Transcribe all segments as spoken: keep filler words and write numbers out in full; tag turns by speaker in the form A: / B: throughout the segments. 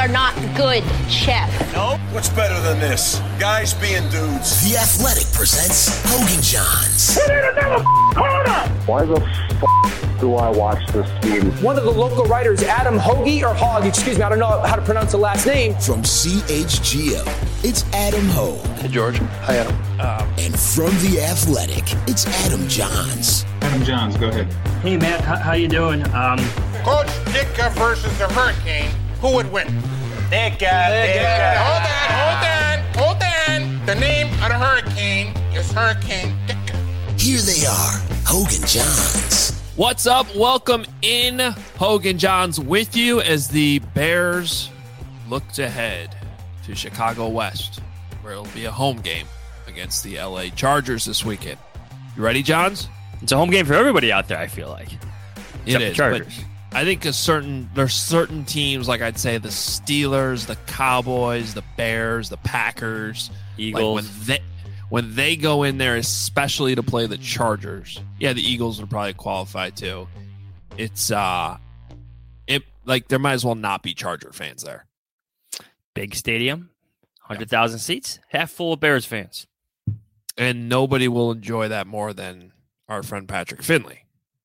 A: are not good, Chef.
B: Nope. What's better than this? Guys being dudes.
C: The Athletic presents Hogan Johns.
D: We need another corner!
E: Why the f*** do I watch this game?
F: One of the local writers, Adam Hoagie, or Hogg, excuse me, I don't know how to pronounce the last name.
C: From C H G O, it's Adam Hogue.
G: Hey, George. Hi, Adam.
C: Um, and from The Athletic, it's Adam Johns.
H: Adam Johns, go ahead.
I: Hey, Matt, how, how you doing? Um,
J: Coach Ditka versus the Hurricane. Who would win?
K: Ditka. Ditka.
J: Hold on, hold on, hold on. The name of the Hurricane is Hurricane Ditka.
C: Here they are, Hogan Johns.
L: What's up? Welcome in, Hogan Johns, with you as the Bears looked ahead to Chicago West, where it'll be a home game against the L A Chargers this weekend. You ready, Johns?
I: It's a home game for everybody out there, I feel like.
L: It is, but I think a certain there's certain teams, like I'd say the Steelers, the Cowboys, the Bears, the Packers,
I: Eagles.
L: Like when they when they go in there, especially to play the Chargers. Yeah, the Eagles would probably qualify too. It's uh, it like there might as well not be Charger fans there.
I: Big stadium, one hundred thousand seats, half full of Bears fans,
L: and nobody will enjoy that more than our friend Patrick Finley.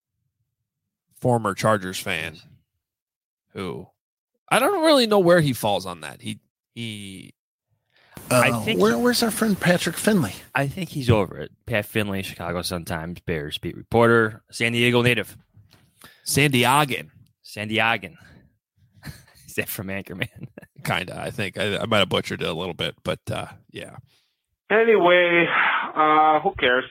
L: Former Chargers fan, who I don't really know where he falls on that. He he,
G: uh,
I: I think
G: where,
I: he,
G: where's our friend Patrick Finley?
I: I think he's over it. Pat Finley, Chicago Sun-Times Bears beat reporter, San Diego native,
L: San Diegan,
I: San Diegan. Is that from Anchorman?
L: Kinda. I think I, I might have butchered it a little bit, but uh, yeah.
D: Anyway, uh, who cares?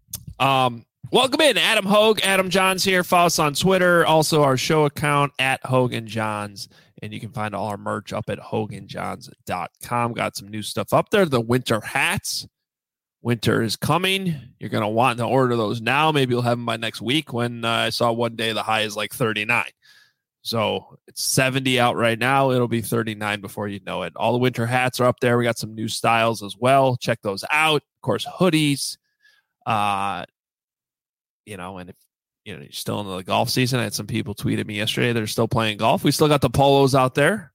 L: Um. Welcome in, Adam Hogue, Adam Johns here. Follow us on Twitter, also our show account at Hogan Johns, and you can find all our merch up at hogan johns dot com. Got some new stuff up there. The winter hats. Winter is coming. You're going to want to order those now. Maybe you'll have them by next week when uh, I saw one day the high is like thirty-nine. So it's seventy out right now. It'll be thirty-nine before you know it. All the winter hats are up there. We got some new styles as well. Check those out. Of course, hoodies. Uh, You know, and if you know you're still in the golf season, I had some people tweet at me yesterday they're still playing golf. We still got the polos out there.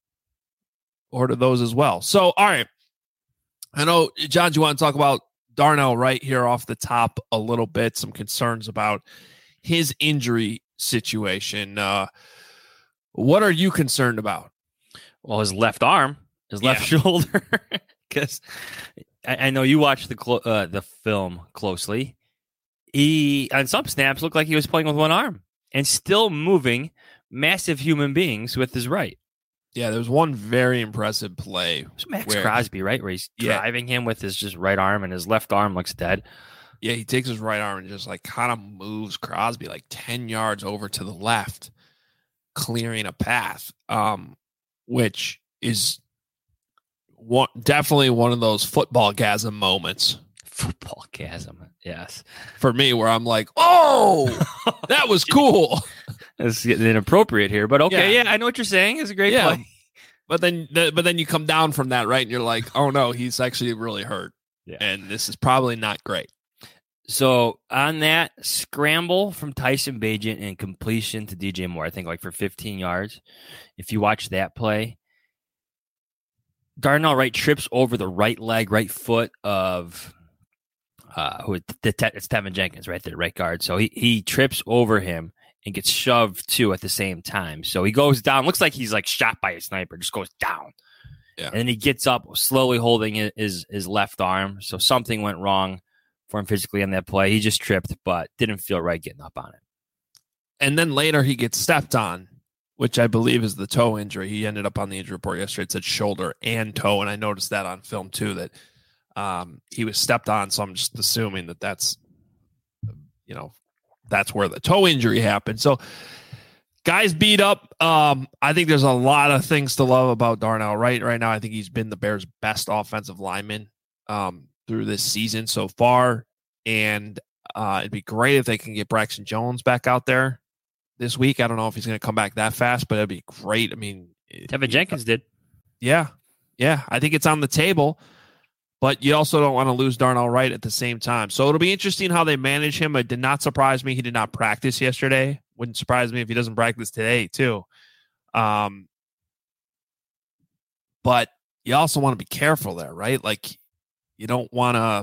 L: Order those as well. So, all right. I know, John, you want to talk about Darnell Wright here off the top a little bit. Some concerns about his injury situation. Uh, what are you concerned about?
I: Well, his left arm, his left
L: yeah.
I: shoulder. Because I, I know you watched the clo- uh, the film closely. He, on some snaps, looked like he was playing with one arm and still moving massive human beings with his right.
L: Yeah, there was one very impressive play.
I: Max Crosby, right? Where he's
L: yeah.
I: driving him with his just right arm and his left arm looks dead.
L: Yeah, he takes his right arm and just like kind of moves Crosby like ten yards over to the left, clearing a path, um, which is one, definitely one of those football-gasm moments.
I: Football-gasm, yes.
L: For me, where I'm like, oh, that was cool.
I: It's getting inappropriate here, but okay, yeah, yeah I know what you're saying. It's a great
L: yeah.
I: play.
L: But then, the, but then you come down from that, right? And you're like, oh no, he's actually really hurt.
I: Yeah.
L: And this is probably not great.
I: So on that scramble from Tyson Bagent and completion to D J Moore, I think like for fifteen yards. If you watch that play, Darnell Wright trips over the right leg, right foot of uh, who the te- it's Tevin Jenkins right there, right guard. So he he trips over him and gets shoved too at the same time. So he goes down. Looks like he's like shot by a sniper. Just goes down.
L: Yeah.
I: And then he gets up, slowly holding his his left arm. So something went wrong for him physically on that play. He just tripped, but didn't feel right getting up on it.
L: And then later he gets stepped on, which I believe is the toe injury. He ended up on the injury report yesterday. It said shoulder and toe, and I noticed that on film too, that um, he was stepped on. So I'm just assuming that that's, you know, that's where the toe injury happened. So guys beat up. Um, I think there's a lot of things to love about Darnell Wright right now. I think he's been the Bears' best offensive lineman um, through this season so far. And uh, it'd be great if they can get Braxton Jones back out there this week. I don't know if he's going to come back that fast, but it'd be great. I mean,
I: Tevin Jenkins did.
L: Yeah. Yeah. I think it's on the table, but you also don't want to lose Darnell Wright at the same time. So it'll be interesting how they manage him. It did not surprise me. He did not practice yesterday. Wouldn't surprise me if he doesn't practice today too. Um, but you also want to be careful there, right? Like you don't want to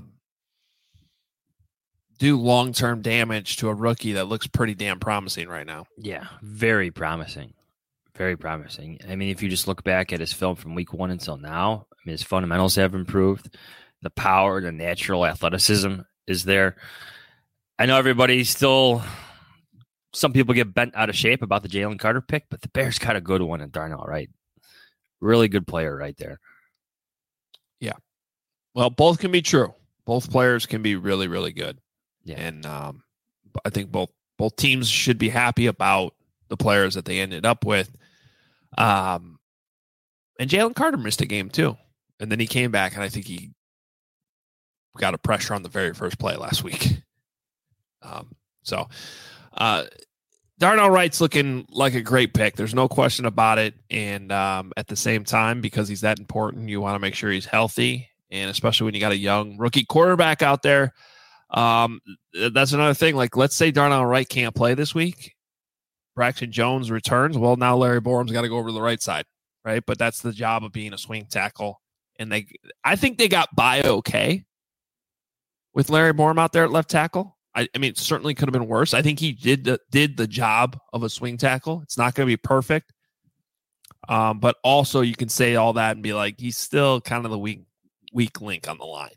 L: do long-term damage to a rookie that looks pretty damn promising right now.
I: Yeah, very promising. Very promising. I mean, if you just look back at his film from week one until now, I mean, his fundamentals have improved. The power, the natural athleticism is there. I know everybody's still, some people get bent out of shape about the Jalen Carter pick, but the Bears got a good one in Darnell Wright. Really good player right there.
L: Yeah. Well, both can be true. Both players can be really, really good. Yeah. And um, I think both both teams should be happy about the players that they ended up with. Um, and Jalen Carter missed a game too. And then he came back, and I think he got a pressure on the very first play last week. Um, so uh, Darnell Wright's looking like a great pick. There's no question about it. And um, at the same time, because he's that important, you want to make sure he's healthy. And especially when you got a young rookie quarterback out there. Um, that's another thing. Like, let's say Darnell Wright can't play this week. Braxton Jones returns. Well, now Larry Borum's got to go over to the right side, right? But that's the job of being a swing tackle. And they, I think they got by okay with Larry Borum out there at left tackle. I, I mean, it certainly could have been worse. I think he did the, did the job of a swing tackle. It's not going to be perfect. Um, but also you can say all that and be like, he's still kind of the weak, weak link on the line.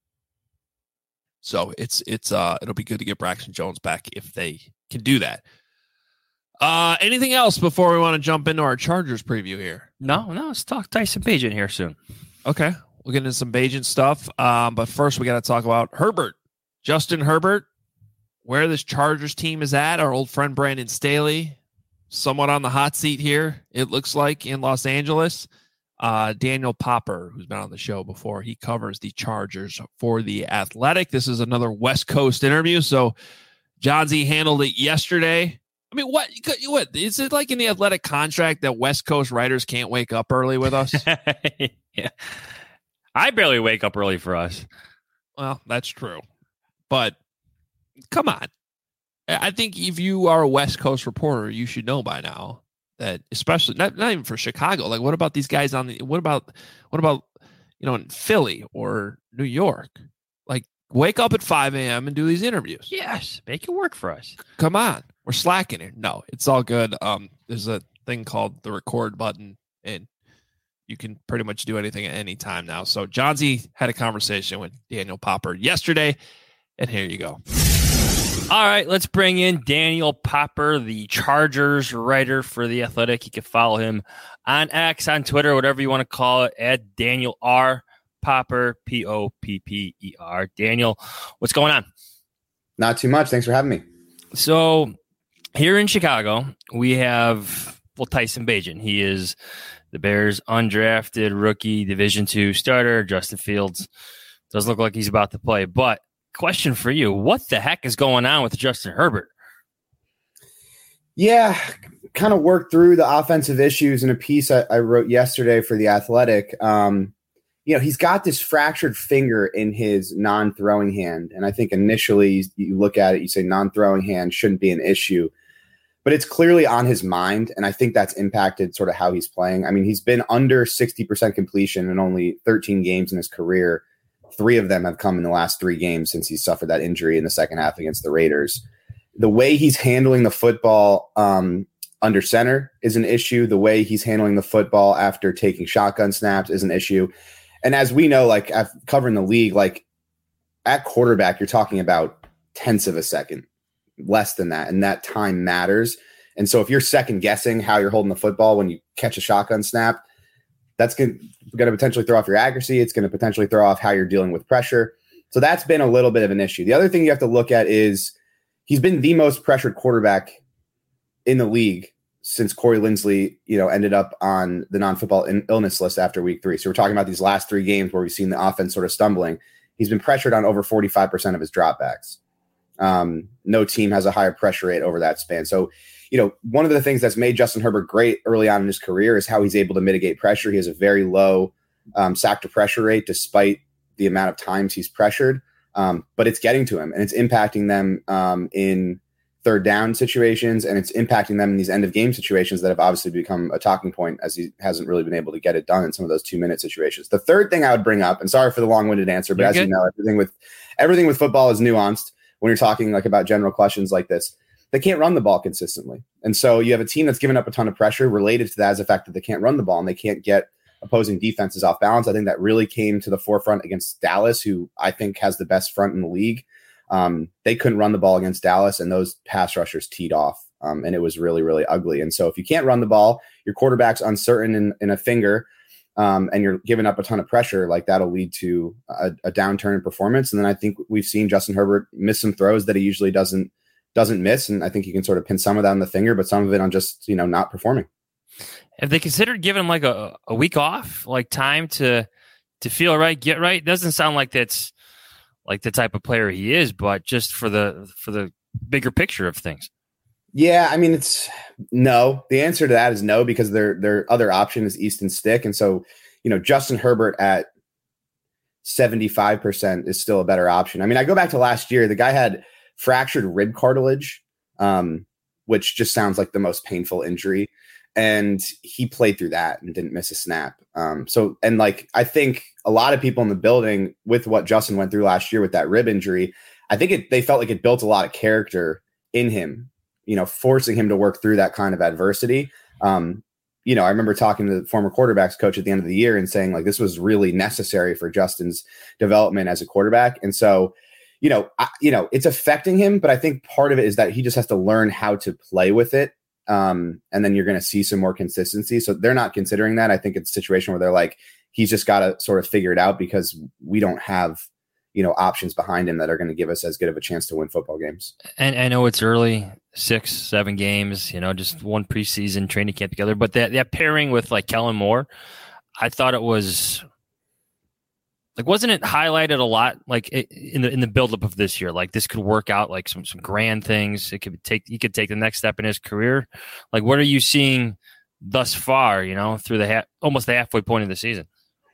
L: So it's, it's, uh, it'll be good to get Braxton Jones back if they can do that. Uh, anything else before we want to jump into our Chargers preview here?
I: No, no, let's talk Tyson Bagent here soon.
L: Okay. We'll get into some Bagent stuff. Um, but first we got to talk about Herbert, Justin Herbert, where this Chargers team is at. Our old friend Brandon Staley, somewhat on the hot seat here, it looks like, in Los Angeles. Uh, Daniel Popper, who's been on the show before, he covers the Chargers for The Athletic. This is another West Coast interview. So John Z handled it yesterday. I mean, what, what is it like in the Athletic contract that West Coast writers can't wake up early with us?
I: Yeah. I barely wake up early for us.
L: Well, that's true. But come on. I think if you are a West Coast reporter, you should know by now that, especially not, not even for Chicago. Like, what about these guys on the, what about, what about, you know, in Philly or New York? Like, wake up at five a.m. and do these interviews.
I: Yes. Make it work for us.
L: Come on. We're slacking here. No, it's all good. Um, there's a thing called the record button, and you can pretty much do anything at any time now. So John Z had a conversation with Daniel Popper yesterday, and here you go.
I: All right, let's bring in Daniel Popper, the Chargers writer for The Athletic. You can follow him on X, on Twitter, whatever you want to call it, at Daniel R. Popper, P O P P E R. Daniel, what's going on?
H: Not too much. Thanks for having me.
I: So here in Chicago, we have, well, Tyson Bagent. He is the Bears' undrafted rookie Division two starter. Justin Fields does look like he's about to play, but question for you, what the heck is going on with Justin Herbert?
H: Yeah, kind of worked through the offensive issues in a piece I, I wrote yesterday for The Athletic. Um, you know, he's got this fractured finger in his non-throwing hand. And I think initially you look at it, you say non-throwing hand shouldn't be an issue. But it's clearly on his mind, and I think that's impacted sort of how he's playing. I mean, he's been under sixty percent completion in only thirteen games in his career. Three of them have come in the last three games since he suffered that injury in the second half against the Raiders. The way he's handling the football um, under center is an issue. The way he's handling the football after taking shotgun snaps is an issue. And as we know, like I've covering the league, like at quarterback, you're talking about tenths of a second, less than that. And that time matters. And so if you're second guessing how you're holding the football when you catch a shotgun snap, that's going to potentially throw off your accuracy. It's going to potentially throw off how you're dealing with pressure. So that's been a little bit of an issue. The other thing you have to look at is he's been the most pressured quarterback in the league since Corey Linsley, you know, ended up on the non-football in- illness list after week three. So we're talking about these last three games where we've seen the offense sort of stumbling. He's been pressured on over forty-five percent of his dropbacks. Um, no team has a higher pressure rate over that span. So, you know, one of the things that's made Justin Herbert great early on in his career is how he's able to mitigate pressure. He has a very low um, sack to pressure rate, despite the amount of times he's pressured. Um, but it's getting to him and it's impacting them um, in third down situations, and it's impacting them in these end of game situations that have obviously become a talking point, as he hasn't really been able to get it done in some of those two minute situations. The third thing I would bring up, and sorry for the long winded answer, but
I: You're
H: as
I: good.
H: you know, everything with everything with football is nuanced when you're talking like about general questions like this. They can't run the ball consistently. And so you have a team that's given up a ton of pressure. Related to that is the fact that they can't run the ball and they can't get opposing defenses off balance. I think that really came to the forefront against Dallas, who I think has the best front in the league. Um, they couldn't run the ball against Dallas, and those pass rushers teed off, um, and it was really, really ugly. And so if you can't run the ball, your quarterback's uncertain in, in a finger, um, and you're giving up a ton of pressure, like that'll lead to a, a downturn in performance. And then I think we've seen Justin Herbert miss some throws that he usually doesn't doesn't miss, and I think you can sort of pin some of that on the finger, but some of it on just, you know, not performing.
I: Have they considered giving him like a, a week off, like time to to feel right, get right? Doesn't sound like that's like the type of player he is, but just for the for the bigger picture of things.
H: Yeah, I mean, it's no. The answer to that is no, because their their other option is Easton Stick, and so you know Justin Herbert at seventy-five percent is still a better option. I mean, I go back to last year. The guy had fractured rib cartilage, um, which just sounds like the most painful injury, and he played through that and didn't miss a snap. Um, so, and like I think a lot of people in the building with what Justin went through last year with that rib injury, I think it they felt like it built a lot of character in him, you know, forcing him to work through that kind of adversity. Um, you know, I remember talking to the former quarterbacks coach at the end of the year and saying like, this was really necessary for Justin's development as a quarterback. And so, you know, I, you know, it's affecting him, but I think part of it is that he just has to learn how to play with it. Um, and then you're going to see some more consistency. So they're not considering that. I think it's a situation where they're like, he's just got to sort of figure it out because we don't have, you know, options behind him that are going to give us as good of a chance to win football games.
I: And I know it's early, six, seven games, you know, just one preseason training camp together. But that, that pairing with like Kellen Moore, I thought it was like, wasn't it highlighted a lot? Like in the in the buildup of this year, like this could work out like some some grand things. It could take he could take the next step in his career. Like, what are you seeing thus far? You know, through the ha- almost the halfway point of the season.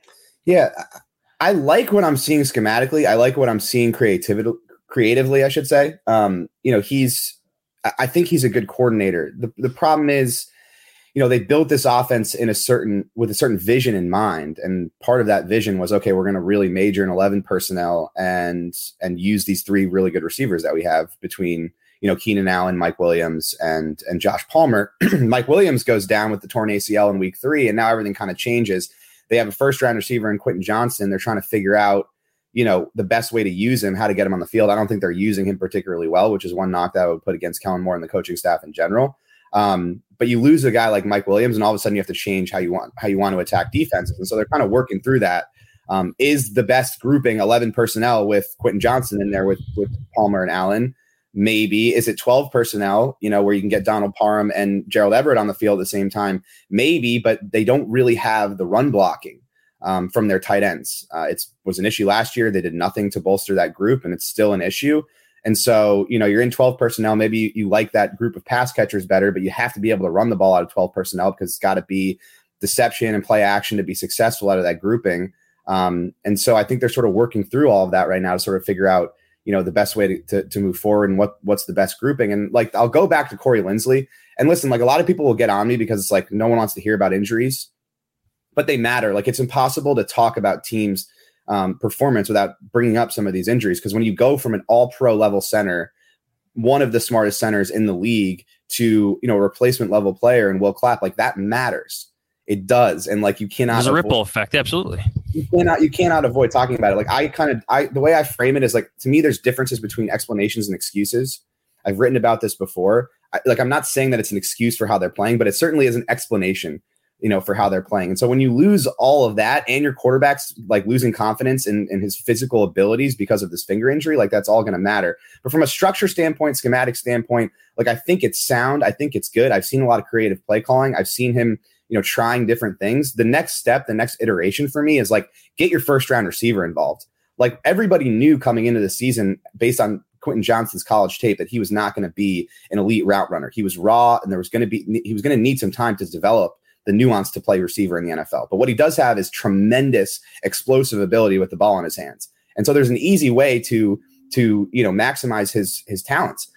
H: Yeah. I like what I'm seeing schematically. I like what I'm seeing creativity, creatively, I should say. Um, you know, he's, I think he's a good coordinator. The the problem is, you know, they built this offense in a certain, with a certain vision in mind. And part of that vision was, okay, we're going to really major in eleven personnel and, and use these three really good receivers that we have between, you know, Keenan Allen, Mike Williams, and, and Josh Palmer. Mike Williams goes down with the torn A C L in week three, and now everything kind of changes. They have a first round receiver in Quentin Johnston. They're trying to figure out, you know, the best way to use him, how to get him on the field. I don't think they're using him particularly well, which is one knock that I would put against Kellen Moore and the coaching staff in general. Um, but you lose a guy like Mike Williams, and all of a sudden you have to change how you want how you want to attack defenses. And so they're kind of working through that. Um, is the best grouping eleven personnel with Quentin Johnston in there with with Palmer and Allen? Maybe. Is it twelve personnel, you know, where you can get Donald Parham and Gerald Everett on the field at the same time? Maybe, but they don't really have the run blocking um, from their tight ends. Uh, it was an issue last year. They did nothing to bolster that group, and it's still an issue. And so, you know, you're in twelve personnel. Maybe you, you like that group of pass catchers better, but you have to be able to run the ball out of twelve personnel because it's got to be deception and play action to be successful out of that grouping. Um, and so I think they're sort of working through all of that right now to sort of figure out, you know, the best way to, to, to move forward and what, what's the best grouping. And like, I'll go back to Corey Linsley and listen, like a lot of people will get on me because it's like, no one wants to hear about injuries, but they matter. Like it's impossible to talk about teams um, performance without bringing up some of these injuries. Cause when you go from an all pro level center, one of the smartest centers in the league to, you know, a replacement level player and Will Clapp, like that matters. It does. And like, you cannot,
I: there's a
H: avoid-
I: ripple effect. Absolutely.
H: You cannot, you cannot avoid talking about it. Like I kind of, I, the way I frame it is like, to me, there's differences between explanations and excuses. I've written about this before. I, like, I'm not saying that it's an excuse for how they're playing, but it certainly is an explanation, you know, for how they're playing. And so when you lose all of that and your quarterback's like losing confidence in, in his physical abilities because of this finger injury, like that's all going to matter. But from a structure standpoint, schematic standpoint, like I think it's sound. I think it's good. I've seen a lot of creative play calling. I've seen him, you know, trying different things. The next step, the next iteration for me is like, get your first round receiver involved. Like everybody knew coming into the season based on Quentin Johnston's college tape that he was not going to be an elite route runner. He was raw and there was going to be, he was going to need some time to develop the nuance to play receiver in the N F L. But what he does have is tremendous explosive ability with the ball in his hands. And so there's an easy way to, to, you know, maximize his, his talents.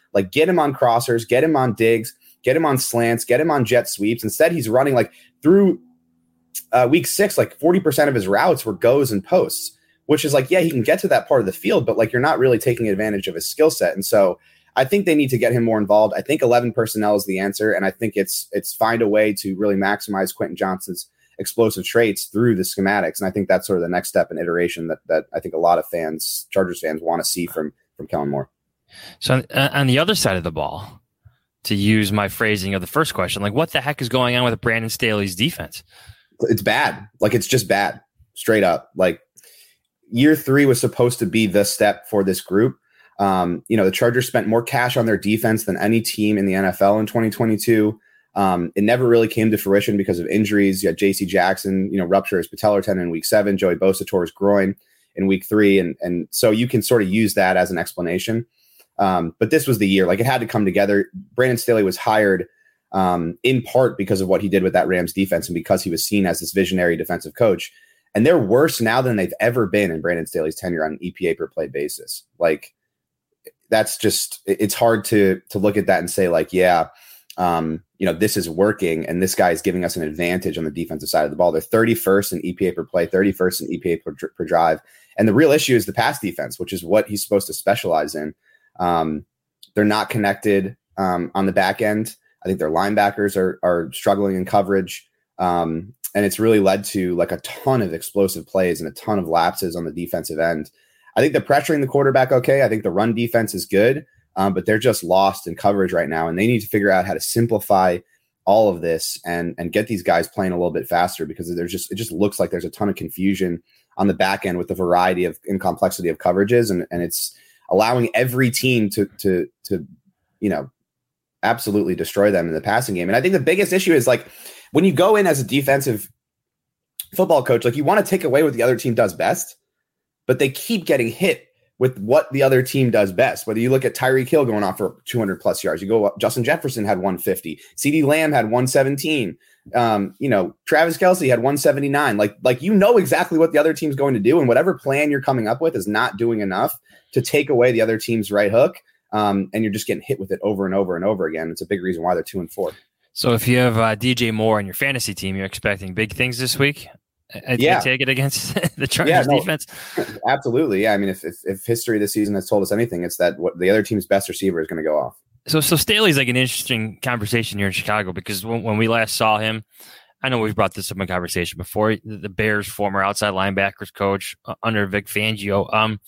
H: Like, get him on crossers, get him on digs, get him on slants, get him on jet sweeps. Instead, he's running like through uh, week six, like forty percent of his routes were goes and posts, which is like, yeah, he can get to that part of the field, but like you're not really taking advantage of his skill set. And so I think they need to get him more involved. I think eleven personnel is the answer. And I think it's it's find a way to really maximize Quentin Johnston's explosive traits through the schematics. And I think that's sort of the next step in iteration that that I think a lot of fans, Chargers fans, want to see from from Kellen Moore.
I: So uh, on the other side of the ball, to use my phrasing of the first question, like what the heck is going on with Brandon Staley's defense?
H: It's bad. Like it's just bad, straight up. Like year three was supposed to be the step for this group. Um, you know, the Chargers spent more cash on their defense than any team in the N F L in twenty twenty-two. Um, it never really came to fruition because of injuries. You had J C Jackson, you know, rupture his patellar tendon in week seven. Joey Bosa tore his groin in week three. And, and so you can sort of use that as an explanation. Um, but this was the year, like it had to come together. Brandon Staley was hired um, in part because of what he did with that Rams defense and because he was seen as this visionary defensive coach. And they're worse now than they've ever been in Brandon Staley's tenure on an E P A per play basis. Like that's just, it's hard to, to look at that and say like, yeah, um, you know, this is working and this guy is giving us an advantage on the defensive side of the ball. They're thirty-first in E P A per play, thirty-first in E P A per, per drive. And the real issue is the pass defense, which is what he's supposed to specialize in. Um, they're not connected um, on the back end. I think their linebackers are are struggling in coverage. Um, and it's really led to like a ton of explosive plays and a ton of lapses on the defensive end. I think they're pressuring the quarterback okay. I think the run defense is good, um, but they're just lost in coverage right now. And they need to figure out how to simplify all of this and, and get these guys playing a little bit faster because there's just, it just looks like there's a ton of confusion on the back end with the variety of and complexity of coverages. And, and it's allowing every team to, to, to, you know, absolutely destroy them in the passing game. And I think the biggest issue is like when you go in as a defensive football coach, like you want to take away what the other team does best, but they keep getting hit with what the other team does best. Whether you look at Tyreek Hill going off for two hundred plus yards, you go up, Justin Jefferson had one fifty, CeeDee Lamb had one seventeen. Um, you know, Travis Kelce had one seventy-nine. Like, like, you know exactly what the other team's going to do. And whatever plan you're coming up with is not doing enough to take away the other team's right hook. Um, and you're just getting hit with it over and over and over again. It's a big reason why they're two and four.
I: So if you have uh, D J Moore on your fantasy team, you're expecting big things this week. I,
H: yeah.
I: I take it against the Chargers
H: yeah, no,
I: defense.
H: Absolutely. Yeah. I mean, if, if, if history this season has told us anything, it's that what the other team's best receiver is going to go off.
I: So, so Staley's like an interesting conversation here in Chicago because when, when we last saw him, I know we've brought this up in conversation before. The Bears' former outside linebackers coach uh, under Vic Fangio. Um,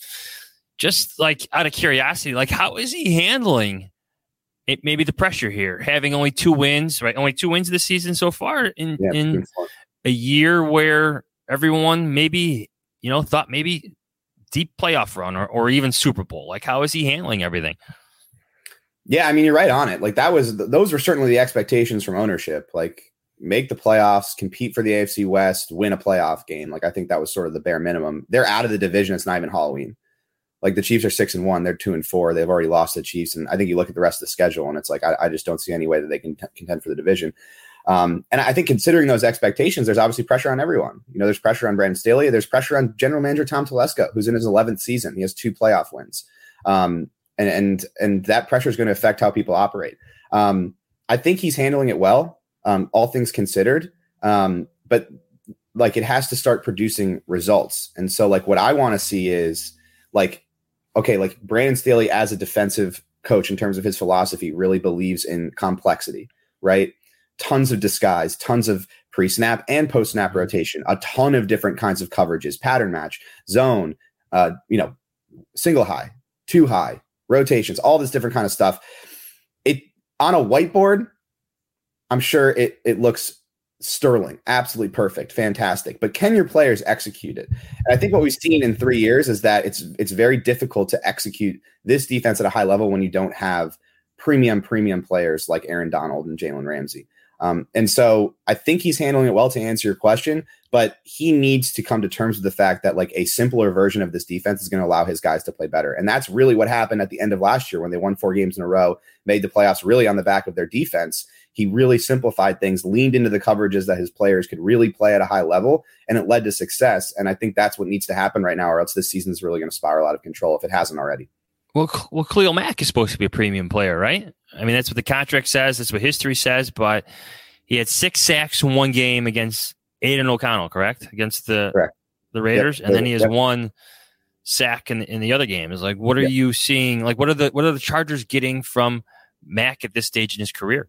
I: just like out of curiosity, like how is he handling it? Maybe the pressure here, having only two wins, right? Only two wins this season so far in
H: yeah,
I: in a year where everyone maybe you know thought maybe deep playoff run or, or even Super Bowl. Like how is he handling everything?
H: Yeah, I mean you're right on it. Like that was those were certainly the expectations from ownership. Like. Make the playoffs, compete for the A F C West, win a playoff game. Like I think that was sort of the bare minimum. They're out of the division. It's not even Halloween. Like the Chiefs are six and one. They're two and four. They've already lost the Chiefs. And I think you look at the rest of the schedule and it's like, I, I just don't see any way that they can t- contend for the division. Um, and I think considering those expectations, there's obviously pressure on everyone. You know, there's pressure on Brandon Staley. There's pressure on general manager Tom Telesco, who's in his eleventh season. He has two playoff wins. Um, and, and, and that pressure is going to affect how people operate. Um, I think he's handling it well. Um, all things considered, um, but like it has to start producing results. And so like what I want to see is like, okay, like Brandon Staley as a defensive coach in terms of his philosophy really believes in complexity, right? Tons of disguise, tons of pre-snap and post-snap rotation, a ton of different kinds of coverages, pattern match, zone, uh, you know, single high, two high, rotations, all this different kind of stuff. It on a whiteboard, I'm sure it it looks sterling, absolutely perfect, fantastic. But can your players execute it? And I think what we've seen in three years is that it's it's very difficult to execute this defense at a high level when you don't have premium, premium players like Aaron Donald and Jalen Ramsey. Um, and so I think he's handling it well to answer your question, but he needs to come to terms with the fact that like a simpler version of this defense is going to allow his guys to play better. And that's really what happened at the end of last year when they won four games in a row, made the playoffs really on the back of their defense. He really simplified things, leaned into the coverages that his players could really play at a high level, and it led to success. And I think that's what needs to happen right now, or else this season is really going to spiral out of control if it hasn't already.
I: Well, well, Khalil Mack is supposed to be a premium player, right? I mean, that's what the contract says. That's what history says. But he had six sacks in one game against Aiden O'Connell, correct? Against the
H: correct.
I: the Raiders,
H: yep.
I: and then he has
H: yep.
I: one sack in in the other game. Is like, what are yep. you seeing? Like, what are the what are the Chargers getting from Mack at this stage in his career?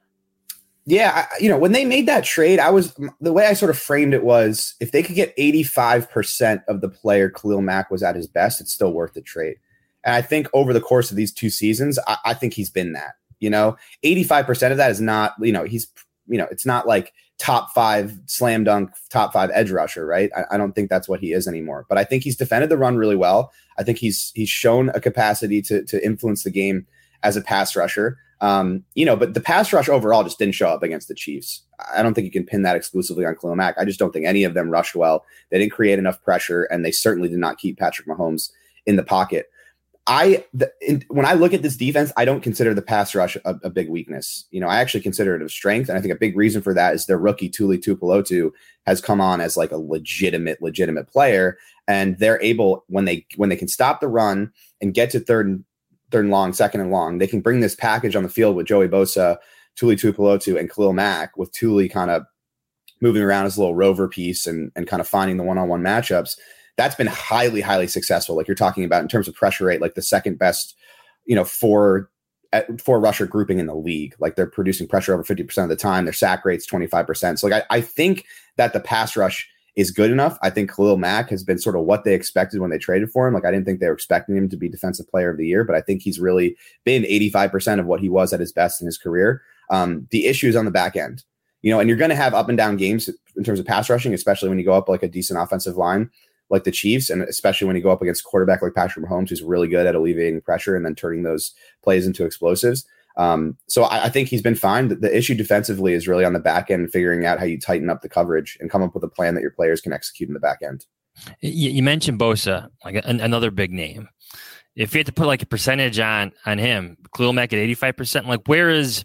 H: Yeah, I, you know, when they made that trade, I was the way I sort of framed it was if they could get eighty-five percent of the player Khalil Mack was at his best, it's still worth the trade. And I think over the course of these two seasons, I, I think he's been that. You know, eighty-five percent of that is not, you know, he's, you know, it's not like top five slam dunk, top five edge rusher, right? I, I don't think that's what he is anymore. But I think he's defended the run really well. I think he's he's shown a capacity to to influence the game as a pass rusher. Um, you know, but the pass rush overall just didn't show up against the Chiefs. I don't think you can pin that exclusively on Khalil Mack. I just don't think any of them rushed well. They didn't create enough pressure, and they certainly did not keep Patrick Mahomes in the pocket. I the, in, when I look at this defense, I don't consider the pass rush a, a big weakness. You know, I actually consider it a strength, and I think a big reason for that is their rookie Tuli Tuipulotu has come on as like a legitimate, legitimate player, and they're able when they when they can stop the run and get to third and third and long, second and long, they can bring this package on the field with Joey Bosa, Tuli Tuipulotu, and Khalil Mack, with Tuli kind of moving around as a little rover piece and and kind of finding the one-on-one matchups. That's been highly, highly successful. Like you're talking about in terms of pressure rate, like the second best, you know, four, four rusher grouping in the league. Like they're producing pressure over fifty percent of the time. Their sack rate's twenty-five percent. So like I, I think that the pass rush is good enough. I think Khalil Mack has been sort of what they expected when they traded for him. Like I didn't think they were expecting him to be defensive player of the year, but I think he's really been eighty-five percent of what he was at his best in his career. Um, the issue is on the back end, you know, and you're going to have up and down games in terms of pass rushing, especially when you go up like a decent offensive line like the Chiefs, and especially when you go up against a quarterback like Patrick Mahomes, who's really good at alleviating pressure and then turning those plays into explosives. Um, so I, I think he's been fine. The, the issue defensively is really on the back end, figuring out how you tighten up the coverage and come up with a plan that your players can execute in the back end.
I: You, you mentioned Bosa, like an, another big name. If you had to put like a percentage on on him, Khalil Mack at eighty-five percent, like where is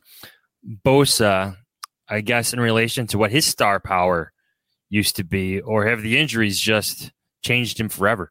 I: Bosa, I guess, in relation to what his star power used to be, or have the injuries just changed him forever?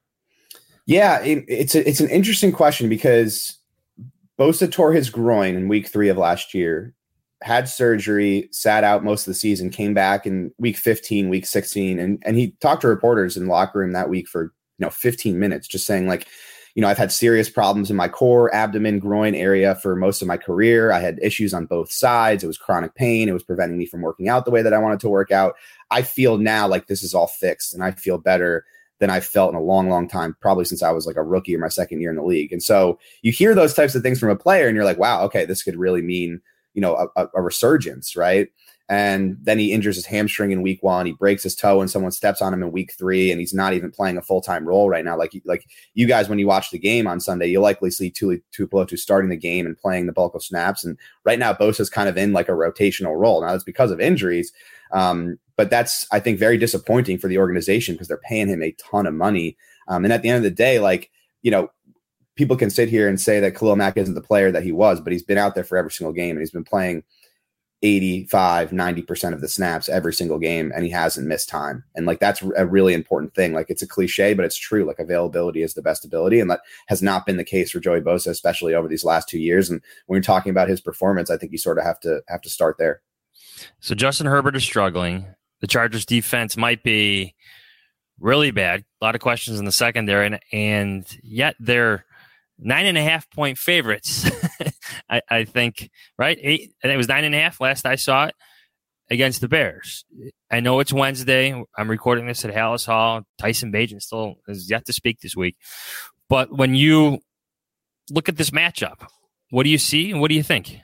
H: Yeah, it, it's a, it's an interesting question because Bosa tore his groin in week three of last year, had surgery, sat out most of the season, came back in week fifteen, week sixteen, and and he talked to reporters in the locker room that week for you know fifteen minutes, just saying like, you know, I've had serious problems in my core, abdomen, groin area for most of my career. I had issues on both sides. It was chronic pain. It was preventing me from working out the way that I wanted to work out. I feel now like this is all fixed, and I feel better than I've felt in a long, long time, probably since I was like a rookie or my second year in the league. And so you hear those types of things from a player and you're like, wow, okay, this could really mean, you know, a, a resurgence, right? And then he injures his hamstring in week one. He breaks his toe and someone steps on him in week three, and he's not even playing a full-time role right now. Like, like you guys, when you watch the game on Sunday, you'll likely see Tuli Tuipulotu starting the game and playing the bulk of snaps. And right now, Bosa's kind of in like a rotational role. Now that's because of injuries. Um, but that's, I think, very disappointing for the organization because they're paying him a ton of money. Um, and at the end of the day, like, you know, people can sit here and say that Khalil Mack isn't the player that he was, but he's been out there for every single game and he's been playing eighty-five, ninety percent of the snaps every single game, and he hasn't missed time. And like, that's a really important thing. Like, it's a cliche, but it's true. Like, availability is the best ability. And that has not been the case for Joey Bosa, especially over these last two years. And when you're talking about his performance, I think you sort of have to have to start there.
I: So Justin Herbert is struggling. The Chargers defense might be really bad. A lot of questions in the secondary, and, and yet they're nine and a half point favorites. I, I think, right? Eight, and it was nine and a half last I saw it against the Bears. I know it's Wednesday. I'm recording this at Hallis Hall. Tyson Bagent still is yet to speak this week. But when you look at this matchup, what do you see and what do you think?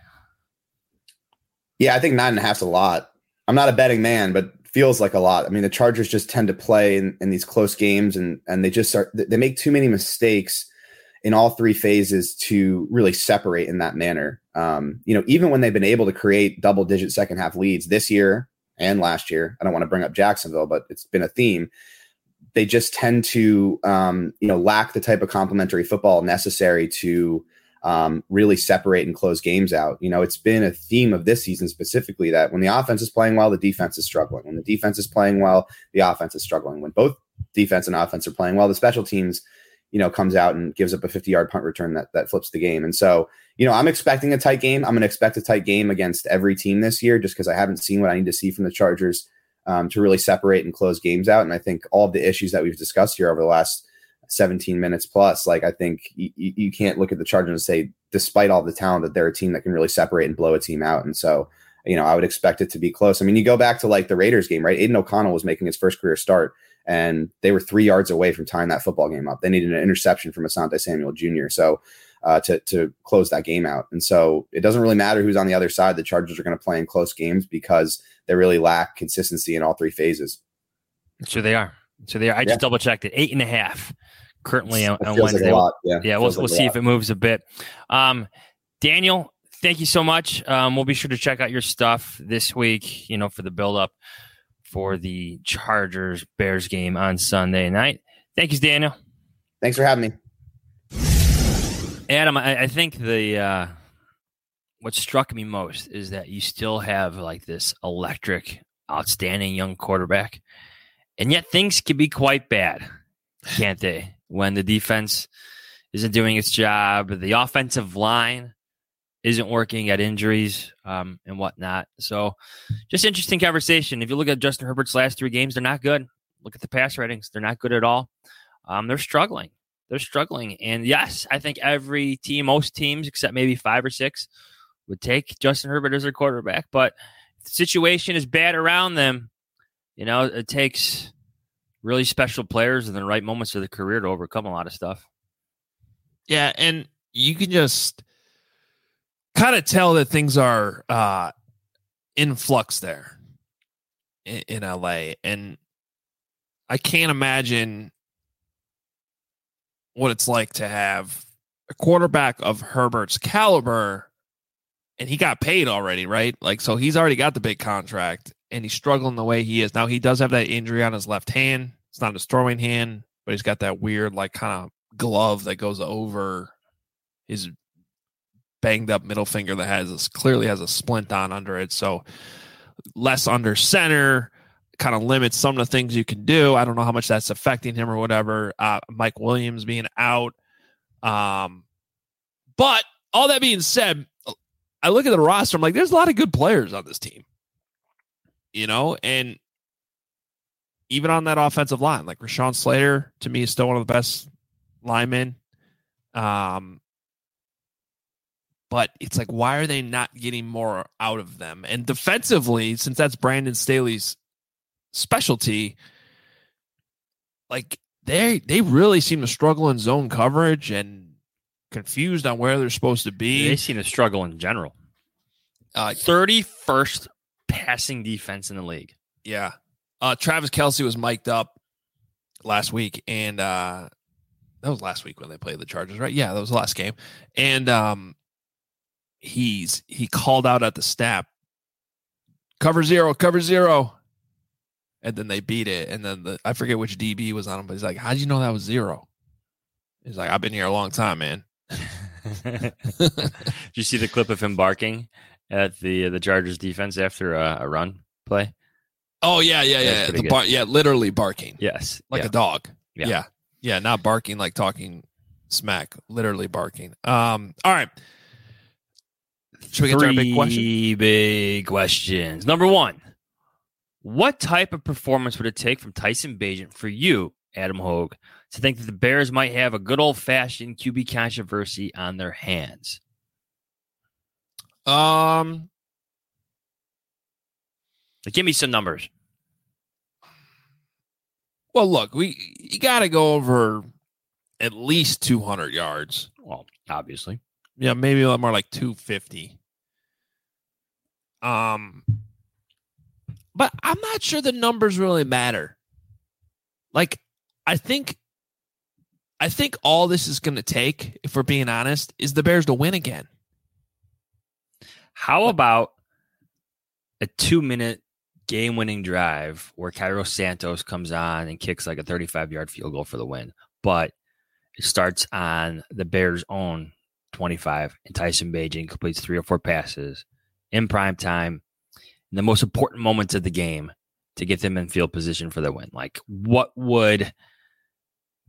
H: Yeah, I think nine and a half is a lot. I'm not a betting man, but feels like a lot. I mean, the Chargers just tend to play in, in these close games, and and they just start. They make too many mistakes in all three phases to really separate in that manner. Um, you know, even when they've been able to create double-digit second-half leads this year and last year, I don't want to bring up Jacksonville, but it's been a theme. They just tend to, um, you know, lack the type of complementary football necessary to um, really separate and close games out. You know, it's been a theme of this season specifically that when the offense is playing well, the defense is struggling. When the defense is playing well, the offense is struggling. When both defense and offense are playing well, the special teams you know, comes out and gives up a fifty-yard punt return that that flips the game. And so, you know, I'm expecting a tight game. I'm going to expect a tight game against every team this year just because I haven't seen what I need to see from the Chargers um, to really separate and close games out. And I think all of the issues that we've discussed here over the last seventeen minutes plus, like I think you, you can't look at the Chargers and say, despite all the talent, that they're a team that can really separate and blow a team out. And so, you know, I would expect it to be close. I mean, you go back to like the Raiders game, right? Aiden O'Connell was making his first career start, and they were three yards away from tying that football game up. They needed an interception from Asante Samuel Junior So uh, to to close that game out. And so it doesn't really matter who's on the other side. The Chargers are going to play in close games because they really lack consistency in all three phases.
I: So they are. So they are. I
H: Yeah.
I: just double checked it. Eight and a half currently on,
H: It
I: on
H: feels like
I: Wednesday.
H: a lot. Yeah,
I: yeah,
H: it
I: we'll
H: feels like
I: we'll
H: a
I: see
H: lot.
I: if it moves a bit. Um, Daniel, thank you so much. Um, we'll be sure to check out your stuff this week, you know, for the build up for the Chargers Bears game on Sunday night. Thank you, Daniel.
H: Thanks for having me.
I: Adam, I, I think the uh, what struck me most is that you still have like this electric, outstanding young quarterback, and yet things can be quite bad, can't they? When the defense isn't doing its job, the offensive line isn't working, at injuries um, and whatnot. So, just interesting conversation. If you look at Justin Herbert's last three games, they're not good. Look at the pass ratings; they're not good at all. Um, they're struggling. They're struggling. And yes, I think every team, most teams, except maybe five or six, would take Justin Herbert as their quarterback. But if the situation is bad around them, you know, it takes really special players in the right moments of their career to overcome a lot of stuff.
L: Yeah, and you can just kind of tell that things are uh, in flux there in, in L A. And I can't imagine what it's like to have a quarterback of Herbert's caliber, and he got paid already, right? Like, so he's already got the big contract, and he's struggling the way he is. Now, he does have that injury on his left hand. It's not his throwing hand, but he's got that weird, like, kind of glove that goes over his banged up middle finger that has this, clearly has a splint on under it. So less under center, kind of limits some of the things you can do. I don't know how much that's affecting him or whatever. Uh, Mike Williams being out. Um, but all that being said, I look at the roster, I'm like, there's a lot of good players on this team, you know, and even on that offensive line, like Rashawn Slater, to me, is still one of the best linemen. Um, but it's like, why are they not getting more out of them? And defensively, since that's Brandon Staley's specialty, like they they really seem to struggle in zone coverage and confused on where they're supposed to be.
I: They seem to struggle in general.
L: Uh,
I: thirty-first passing defense in the league.
L: Yeah. Uh, Travis Kelce was mic'd up last week, and uh, that was last week when they played the Chargers, right? Yeah, that was the last game. And um, he's he called out at the snap, cover zero, cover zero. And then they beat it. And then the, I forget which D B was on him, but he's like, how did you know that was zero? He's like, I've been here a long time, man.
I: Did you see the clip of him barking at the the Chargers defense after a, a run play?
L: Oh, yeah, yeah, yeah. The bar- yeah, literally barking.
I: Yes.
L: Like
I: yeah.
L: a dog.
I: Yeah.
L: yeah. Yeah, not barking like talking smack. Literally barking. Um, all right. Should we get to our big question?
I: Three big questions. Number one. What type of performance would it take from Tyson Bagent for you, Adam Hogue, to think that the Bears might have a good old-fashioned Q B controversy on their hands?
L: Um,
I: like, give me some numbers.
L: Well, look, we you got to go over at least two hundred yards.
I: Well, obviously.
L: Yeah, maybe a lot more like two fifty. Um. But I'm not sure the numbers really matter. Like, I think, I think all this is going to take, if we're being honest, is the Bears to win again.
I: How about a two-minute game-winning drive where Cairo Santos comes on and kicks like a thirty-five-yard field goal for the win, but it starts on the Bears' own twenty-five, and Tyson Bagent completes three or four passes in prime time, in the most important moments of the game, to get them in field position for the win? Like, what would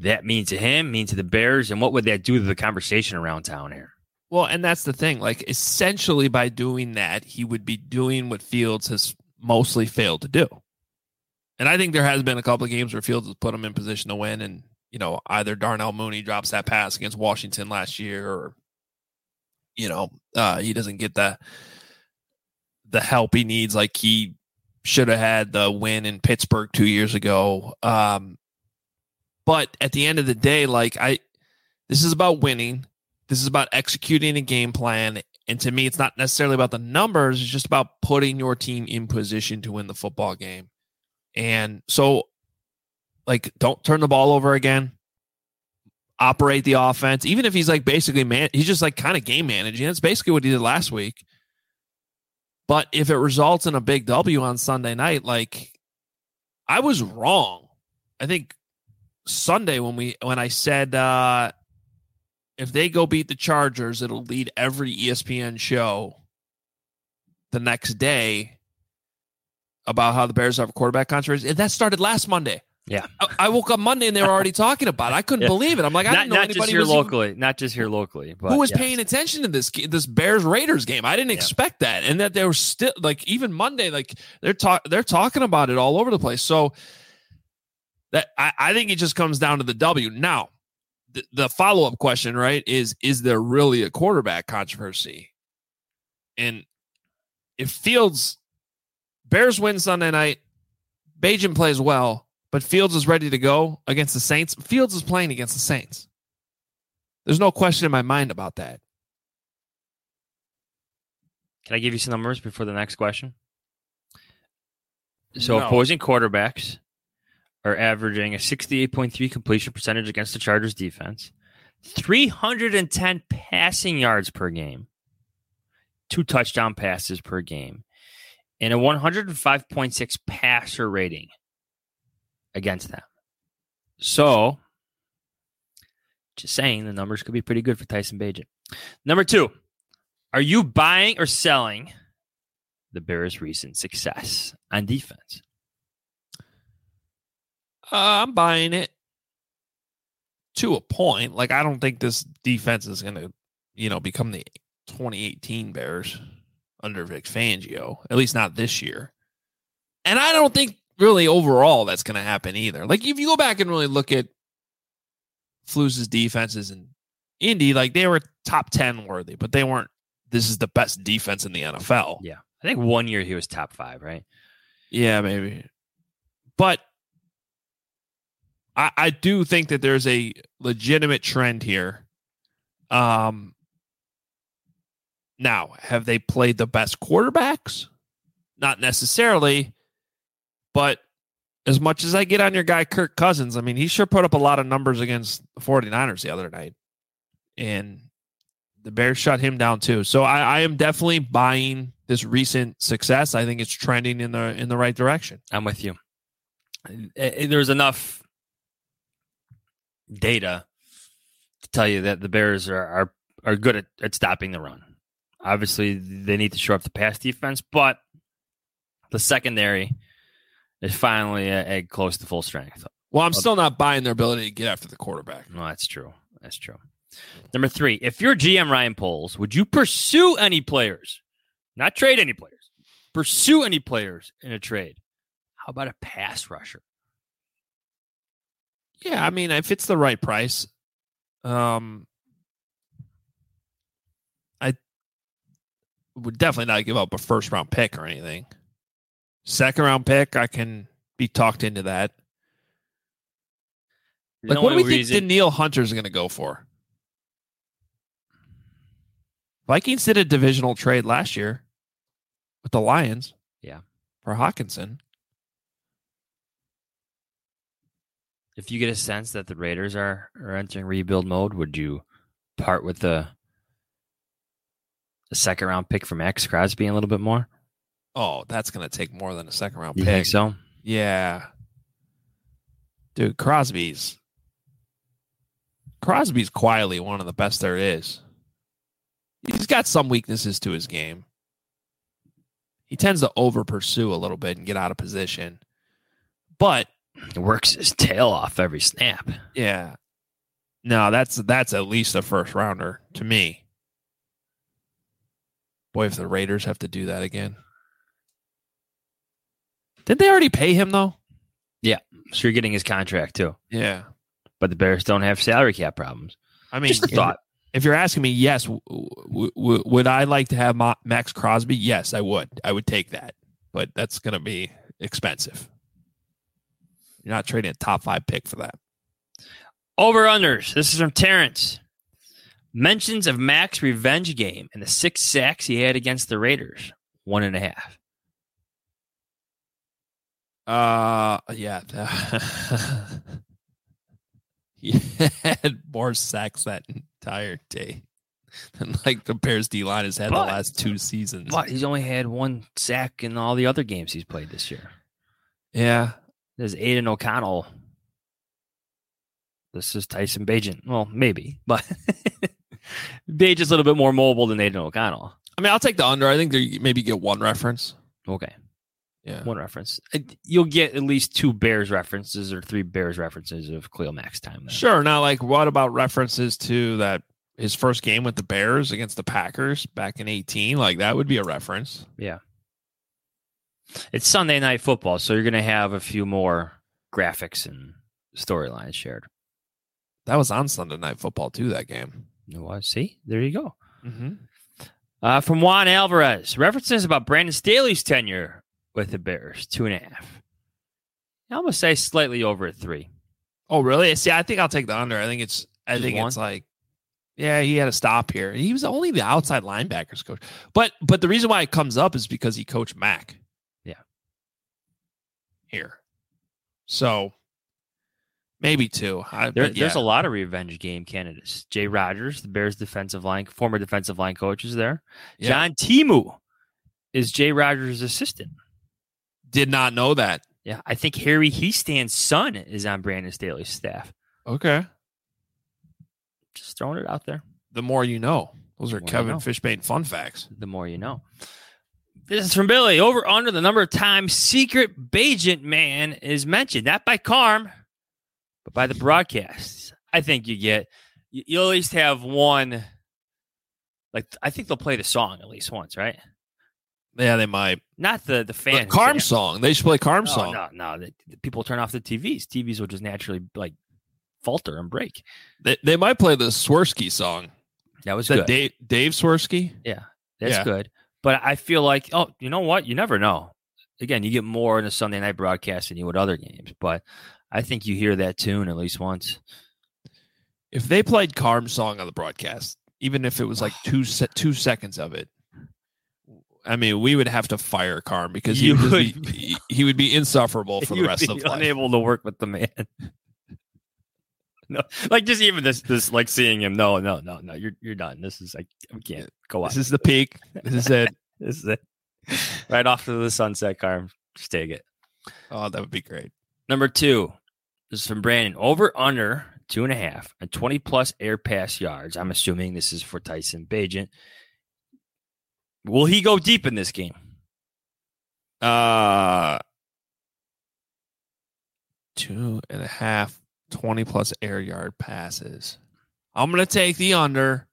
I: that mean to him, mean to the Bears, and what would that do to the conversation around town here?
L: Well, and that's the thing. Like, essentially, by doing that, he would be doing what Fields has mostly failed to do. And I think there has been a couple of games where Fields has put him in position to win, and you know, either Darnell Mooney drops that pass against Washington last year, or you know, uh, he doesn't get the the help he needs, like he should have had the win in Pittsburgh two years ago. Um, but at the end of the day, like I, this is about winning. This is about executing a game plan. And to me, it's not necessarily about the numbers. It's just about putting your team in position to win the football game. And so, like, don't turn the ball over again. Operate the offense. Even if he's like basically man, he's just like kind of game managing. That's basically what he did last week. But if it results in a big W on Sunday night, like I was wrong. I think Sunday when we when I said uh, if they go beat the Chargers, it'll lead every E S P N show the next day about how the Bears have a quarterback controversy. And that started last Monday.
I: Yeah.
L: I, I woke up Monday and they were already talking about it. I couldn't
I: yeah.
L: believe it. I'm like, I
I: not,
L: didn't know
I: not
L: anybody
I: just here
L: was
I: locally,
L: even,
I: not just here locally, but
L: who was
I: yes.
L: paying attention to this this Bears Raiders game. I didn't
I: yeah.
L: expect that, and that they were still like even Monday, like they're talk they're talking about it all over the place. So that I, I think it just comes down to the W. Now, the, the follow up question, right, is is there really a quarterback controversy? And if Fields Bears win Sunday night, Bajan plays well, but Fields is ready to go against the Saints. Fields is playing against the Saints. There's no question in my mind about that.
I: Can I give you some numbers before the next question? So
L: No.
I: opposing quarterbacks are averaging a sixty-eight point three completion percentage against the Chargers defense, three hundred ten passing yards per game, two touchdown passes per game, and a one hundred five point six passer rating against them. So, just saying, the numbers could be pretty good for Tyson Bagent. Number two, are you buying or selling the Bears' recent success on defense?
L: Uh, I'm buying it to a point. Like, I don't think this defense is going to, you know, become the twenty eighteen Bears under Vic Fangio, at least not this year. And I don't think really overall that's going to happen either. Like, if you go back and really look at Flus' defenses in Indy, like they were top ten worthy, but they weren't, this is the best defense in the N F L.
I: Yeah. I think one year he was top five, right?
L: Yeah, maybe. But I, I do think that there's a legitimate trend here. Um, now, have they played the best quarterbacks? Not necessarily, but as much as I get on your guy Kirk Cousins, I mean, he sure put up a lot of numbers against the 49ers the other night. And the Bears shut him down too. So I, I am definitely buying this recent success. I think it's trending in the in the right direction.
I: I'm with you. There's enough data to tell you that the Bears are are, are good at, at stopping the run. Obviously, they need to shore up the pass defense, but the secondary is finally at, at close to full strength.
L: Well, I'm still not buying their ability to get after the quarterback.
I: No, that's true. That's true. Number three, if you're G M Ryan Poles, would you pursue any players? Not trade any players. Pursue any players in a trade. How about a pass rusher?
L: Yeah, I mean, if it's the right price, um, I would definitely not give up a first round pick or anything. Second round pick, I can be talked into that.
I: The
L: Like, what do we
I: only
L: think
I: reason-
L: Danielle Hunter's going to go for? Vikings did a divisional trade last year with the Lions.
I: Yeah.
L: For Hawkinson.
I: If you get a sense that the Raiders are, are entering rebuild mode, would you part with the, the second round pick for Max Crosby a little bit more?
L: Oh, that's going to take more than a second round
I: You
L: pick.
I: think so?
L: Yeah. Dude, Crosby's Crosby's quietly one of the best there is. He's got some weaknesses to his game. He tends to over pursue a little bit and get out of position. But
I: He works his tail off every snap.
L: Yeah. No, that's that's at least a first rounder to me. Boy, if the Raiders have to do that again. Did they already pay him, though?
I: Yeah. So you're getting his contract, too.
L: Yeah.
I: But the Bears don't have salary cap problems.
L: I mean,
I: Just a thought.
L: If you're asking me, yes, w- w- w- would I like to have Ma- Max Crosby? Yes, I would. I would take that. But that's going to be expensive. You're not trading a top five pick for that.
I: Over-unders. This is from Terrence. Mentions of Mac's revenge game and the six sacks he had against the Raiders. One and a half.
L: Uh, yeah. He had more sacks that entire day than like the Bears D-line has had
I: But-
L: the last two seasons.
I: But he's only had one sack in all the other games he's played this year.
L: Yeah.
I: There's Aiden O'Connell. This is Tyson Bagent. Well, maybe, but Bagent's a little bit more mobile than Aiden O'Connell.
L: I mean, I'll take the under. I think they maybe get one reference.
I: Okay.
L: Yeah.
I: One reference. You'll get at least two Bears references or three Bears references of Khalil Mack's time. Then.
L: Sure. Now, like, what about references to that his first game with the Bears against the Packers back in eighteen? Like, that would be a reference.
I: Yeah. It's Sunday Night Football, so you're going to have a few more graphics and storylines shared.
L: That was on Sunday Night Football, too, that game.
I: It was. See? There you go.
L: Mm-hmm.
I: Uh, from Juan Alvarez, references about Brandon Staley's tenure with the Bears, two and a half. I almost say slightly over a three.
L: Oh, really? See, I think I'll take the under. I think it's, I
I: Just
L: think
I: one?
L: it's like, yeah, he had a stop here. He was only the outside linebackers coach. But, but the reason why it comes up is because he coached Mac.
I: Yeah.
L: Here. So, maybe two. I,
I: There,
L: but yeah.
I: There's a lot of revenge game candidates. Jay Rodgers, the Bears defensive line, former defensive line coach, is there.
L: Yeah.
I: John Timu is Jay Rodgers' assistant.
L: Did not know that.
I: Yeah, I think Harry Heastand's son is on Brandon Staley's staff.
L: Okay.
I: Just throwing it out there.
L: The more you know. Those are
I: The more
L: Kevin
I: you know.
L: Fishbane fun facts.
I: The more you know. This is from Billy. Over under the number of times Secret Bagent Man is mentioned, not by Carm, but by the broadcasts. I think you get, you, you'll at least have one. Like, I think they'll play the song at least once, right?
L: Yeah, they might.
I: Not the the fan.
L: The Carm song. They should play Carm
I: no,
L: song.
I: No, no, the, the people turn off the T Vs. T Vs will just naturally like falter and break.
L: They they might play the Swirsky song.
I: That was
L: Is
I: good.
L: that Dave, Dave Swirsky?
I: Yeah, that's
L: Yeah.
I: good. But I feel like, oh, you know what? You never know. Again, you get more in a Sunday night broadcast than you would other games. But I think you hear that tune at least once.
L: If they played Carm song on the broadcast, even if it was like two se- two seconds of it, I mean, we would have to fire Carm because he
I: You
L: would,
I: would
L: just be, he, he would be insufferable for the
I: You'd
L: rest
I: be
L: of life.
I: unable to work with the man. No, like just even this, this, like seeing him. No, no, no, no. You're you're done. This is like we can't go on.
L: This is the peak. This is it.
I: This is it. Right off to the sunset, Carm. Just take it.
L: Oh, that would be great.
I: Number two. This is from Brandon. Over under two and a half and twenty plus air pass yards. I'm assuming this is for Tyson Bagent. Will he go deep in this game?
L: Uh, two and a half, twenty plus air yard passes. I'm going to take the under.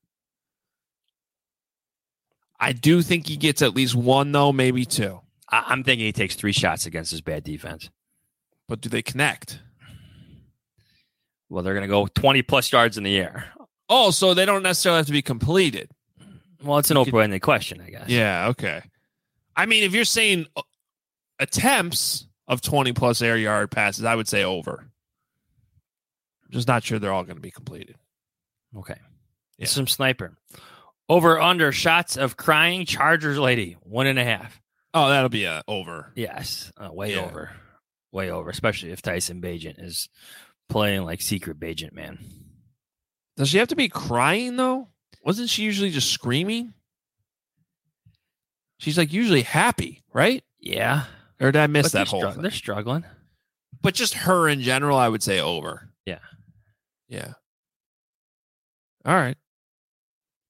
L: I do think he gets at least one, though, maybe two.
I: I- I'm thinking he takes three shots against his bad defense.
L: But do they connect?
I: Well, they're going to go twenty plus yards in the air.
L: Oh, so they don't necessarily have to be completed.
I: Well, it's an open-ended question, I guess.
L: Yeah, okay. I mean, if you're saying attempts of twenty plus air yard passes, I would say over. I'm just not sure they're all going to be completed.
I: Okay.
L: Yeah.
I: Some sniper. Over under shots of crying Chargers lady. One and a half.
L: Oh, that'll be a over.
I: Yes. Uh, way
L: Yeah.
I: over. Way over. Especially if Tyson Bagent is playing like Secret Bagent Man.
L: Does she have to be crying, though? Wasn't she usually just screaming? She's like usually happy, right?
I: Yeah.
L: Or did I miss
I: But
L: that
I: they're
L: whole
I: str-
L: thing?
I: They're struggling.
L: But just her in general, I would say over.
I: Yeah.
L: Yeah. All right.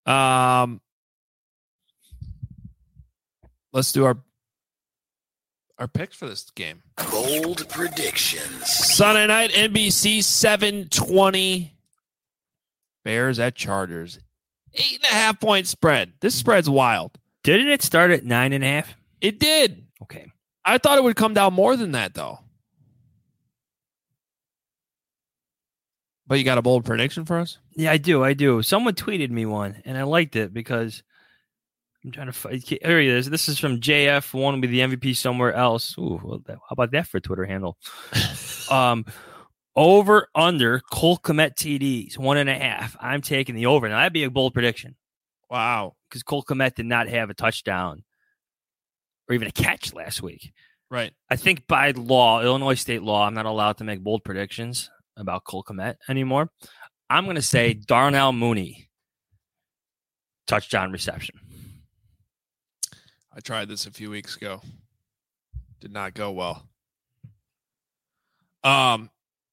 L: Um, let's do our our picks for this game.
C: Bold predictions.
L: Sunday night, N B C, seven twenty. Bears at Chargers. Eight and a half point spread. This spread's wild.
I: Didn't it start at nine and a half?
L: It did.
I: Okay.
L: I thought it would come down more than that, though. But you got a bold prediction for us?
I: Yeah, I do. I do. Someone tweeted me one, and I liked it because I'm trying to find. Here he is. This is from J F. Want to be the M V P somewhere else. Ooh, well, how about that for a Twitter handle? um, over under Cole Kmet T Ds one and a half. I'm taking the over. Now that'd be a bold prediction.
L: Wow,
I: because Cole Kmet did not have a touchdown or even a catch last week.
L: Right.
I: I think by law, Illinois state law, I'm not allowed to make bold predictions about Cole Kmet anymore. I'm going to say Darnell Mooney touchdown reception.
L: I tried this a few weeks ago. Did not go well. Um,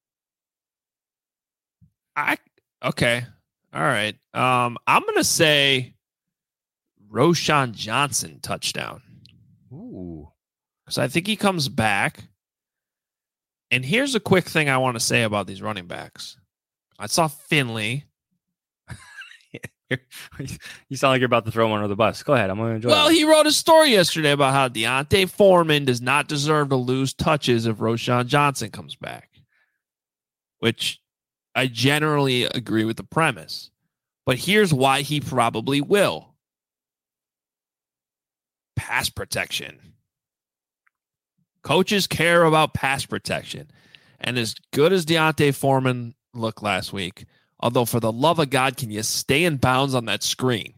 L: I okay, all right. Um, I'm going to say Roschon Johnson touchdown.
I: Ooh,
L: because I think he comes back. And here's a quick thing I want to say about these running backs. I saw Finley.
I: You sound like you're about to throw him under the bus. Go ahead. I'm going to enjoy
L: Well,
I: it.
L: he wrote a story yesterday about how Deontay Foreman does not deserve to lose touches if Roschon Johnson comes back, which I generally agree with the premise. But here's why he probably will. Pass protection. Coaches care about pass protection. And as good as Deontay Foreman looked last week, although for the love of God, can you stay in bounds on that screen?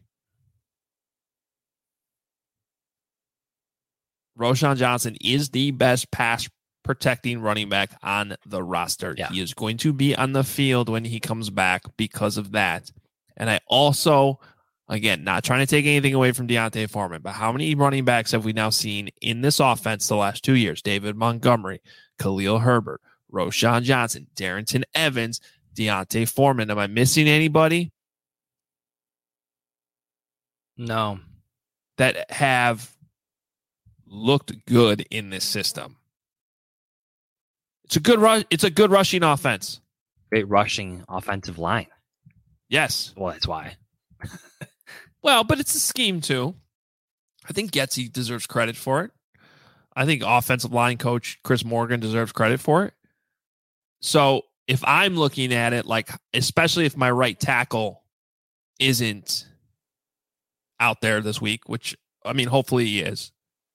L: Roschon Johnson is the best pass protecting running back on the roster.
I: Yeah.
L: He is going to be on the field when he comes back because of that. And I also, again, not trying to take anything away from Deontay Foreman, but how many running backs have we now seen in this offense the last two years? David Montgomery, Khalil Herbert, Roschon Johnson, Darrington Evans, Deontay Foreman. Am I missing anybody?
I: No.
L: That have looked good in this system. It's a good rush. It's a good rushing offense.
I: Great rushing offensive line.
L: Yes.
I: Well, that's why.
L: Well, but it's a scheme too. I think Getsy deserves credit for it. I think offensive line coach Chris Morgan deserves credit for it. So if I'm looking at it, like, especially if my right tackle isn't out there this week, which, I mean, hopefully he is,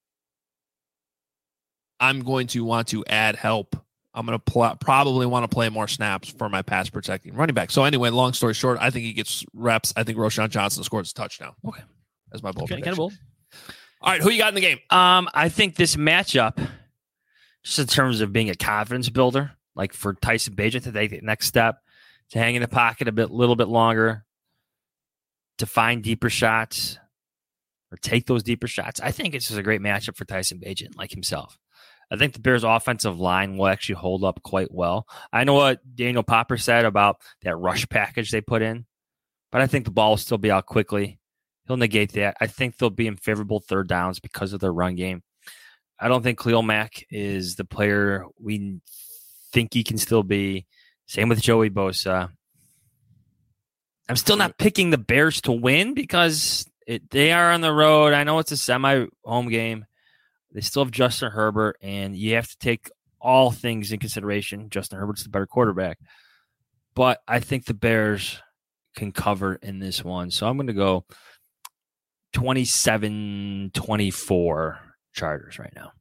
L: I'm going to want to add help. I'm going to pl- probably want to play more snaps for my pass protecting running back. So anyway, long story short, I think he gets reps. I think Roschon Johnson scores a touchdown.
I: Okay.
L: That's my bold
I: Okay,
L: prediction.
I: kind of bold.
L: All right, who you got in the game?
I: Um, I think this matchup, just in terms of being a confidence builder, like for Tyson Bagent to take the next step, to hang in the pocket a bit, little bit longer, to find deeper shots or take those deeper shots. I think it's just a great matchup for Tyson Bagent, like himself. I think the Bears' offensive line will actually hold up quite well. I know what Daniel Popper said about that rush package they put in, but I think the ball will still be out quickly. He'll negate that. I think they'll be in favorable third downs because of their run game. I don't think Khalil Mack is the player we think he can still be. Same with Joey Bosa. I'm still not picking the Bears to win because it, they are on the road. I know it's a semi-home game. They still have Justin Herbert, and you have to take all things in consideration. Justin Herbert's the better quarterback. But I think the Bears can cover in this one. So I'm going to go twenty-seven twenty-four Chargers right now.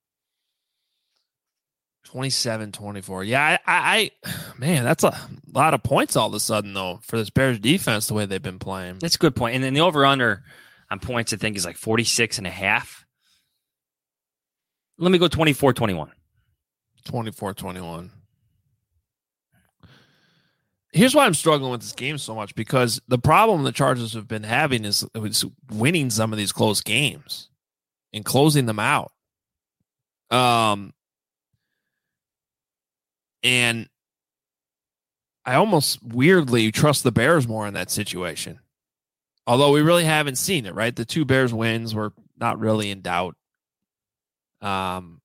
L: twenty-seven twenty-four. Yeah, I, I, man, that's a lot of points all of a sudden, though, for this Bears defense, the way they've been playing.
I: That's a good point. And then the over-under on points, I think, is like forty-six and a half. Let me go twenty-four twenty-one.
L: twenty-four twenty-one. Here's why I'm struggling with this game so much, because the problem the Chargers have been having is, is winning some of these close games and closing them out. Um, and I almost weirdly trust the Bears more in that situation. Although we really haven't seen it, right? The two Bears wins were not really in doubt. Um,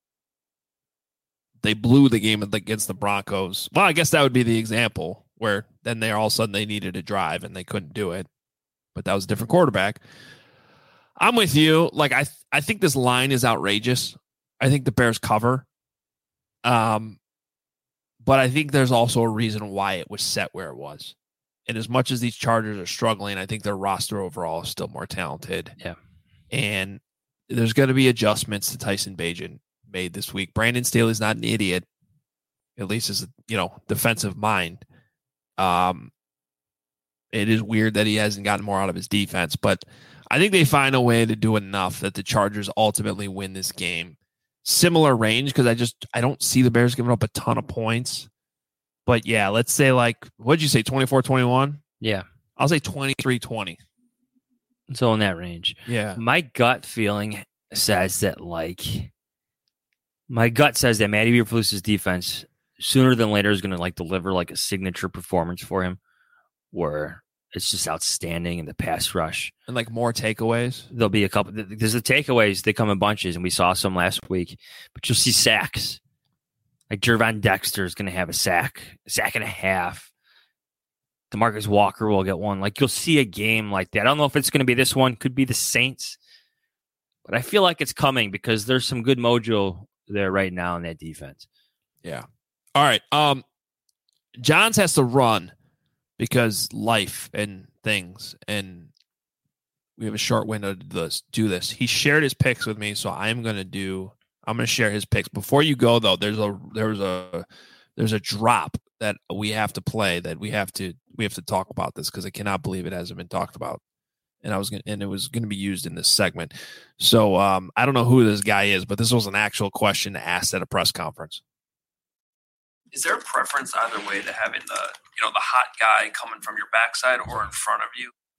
L: they blew the game against the Broncos. Well, I guess that would be the example where then they all of a sudden they needed a drive and they couldn't do it. But that was a different quarterback. I'm with you. Like I, th- I think this line is outrageous. I think the Bears cover. Um, but I think there's also a reason why it was set where it was. And as much as these Chargers are struggling, I think their roster overall is still more talented.
I: Yeah.
L: And there's going to be adjustments to Tyson Bagent made this week. Brandon Staley's not an idiot, at least as a, you know, defensive mind. Um, it is weird that he hasn't gotten more out of his defense, but I think they find a way to do enough that the Chargers ultimately win this game. Similar range, because I just I don't see the Bears giving up a ton of points. But yeah, let's say like, what'd you say, twenty-four twenty-one?
I: Yeah.
L: I'll say twenty-three twenty.
I: So in that range.
L: Yeah.
I: My gut feeling says that, like, my gut says that Matty Eberflus's defense sooner than later is going to, like, deliver, like, a signature performance for him where it's just outstanding in the pass rush.
L: And, like, more takeaways?
I: There'll be a couple. There's the takeaways. They come in bunches, and we saw some last week. But you'll see sacks. Like, Jervon Dexter is going to have a sack, a sack and a half. DeMarcus Walker will get one. Like, you'll see a game like that. I don't know if it's going to be this one. Could be the Saints. But I feel like it's coming because there's some good mojo there right now in that defense.
L: Yeah. All right. Um, Johns has to run because life and things, and we have a short window to this, do this. He shared his picks with me, so I'm going to do I'm going to share his picks. Before you go, though, there's a there's a there's a drop that we have to play that we have to we have to talk about this because I cannot believe it hasn't been talked about. And I was going and it was going to be used in this segment. So um, I don't know who this guy is, but this was an actual question asked at a press conference.
M: Is there a preference either way to having the you know the hot guy coming from your backside or in front of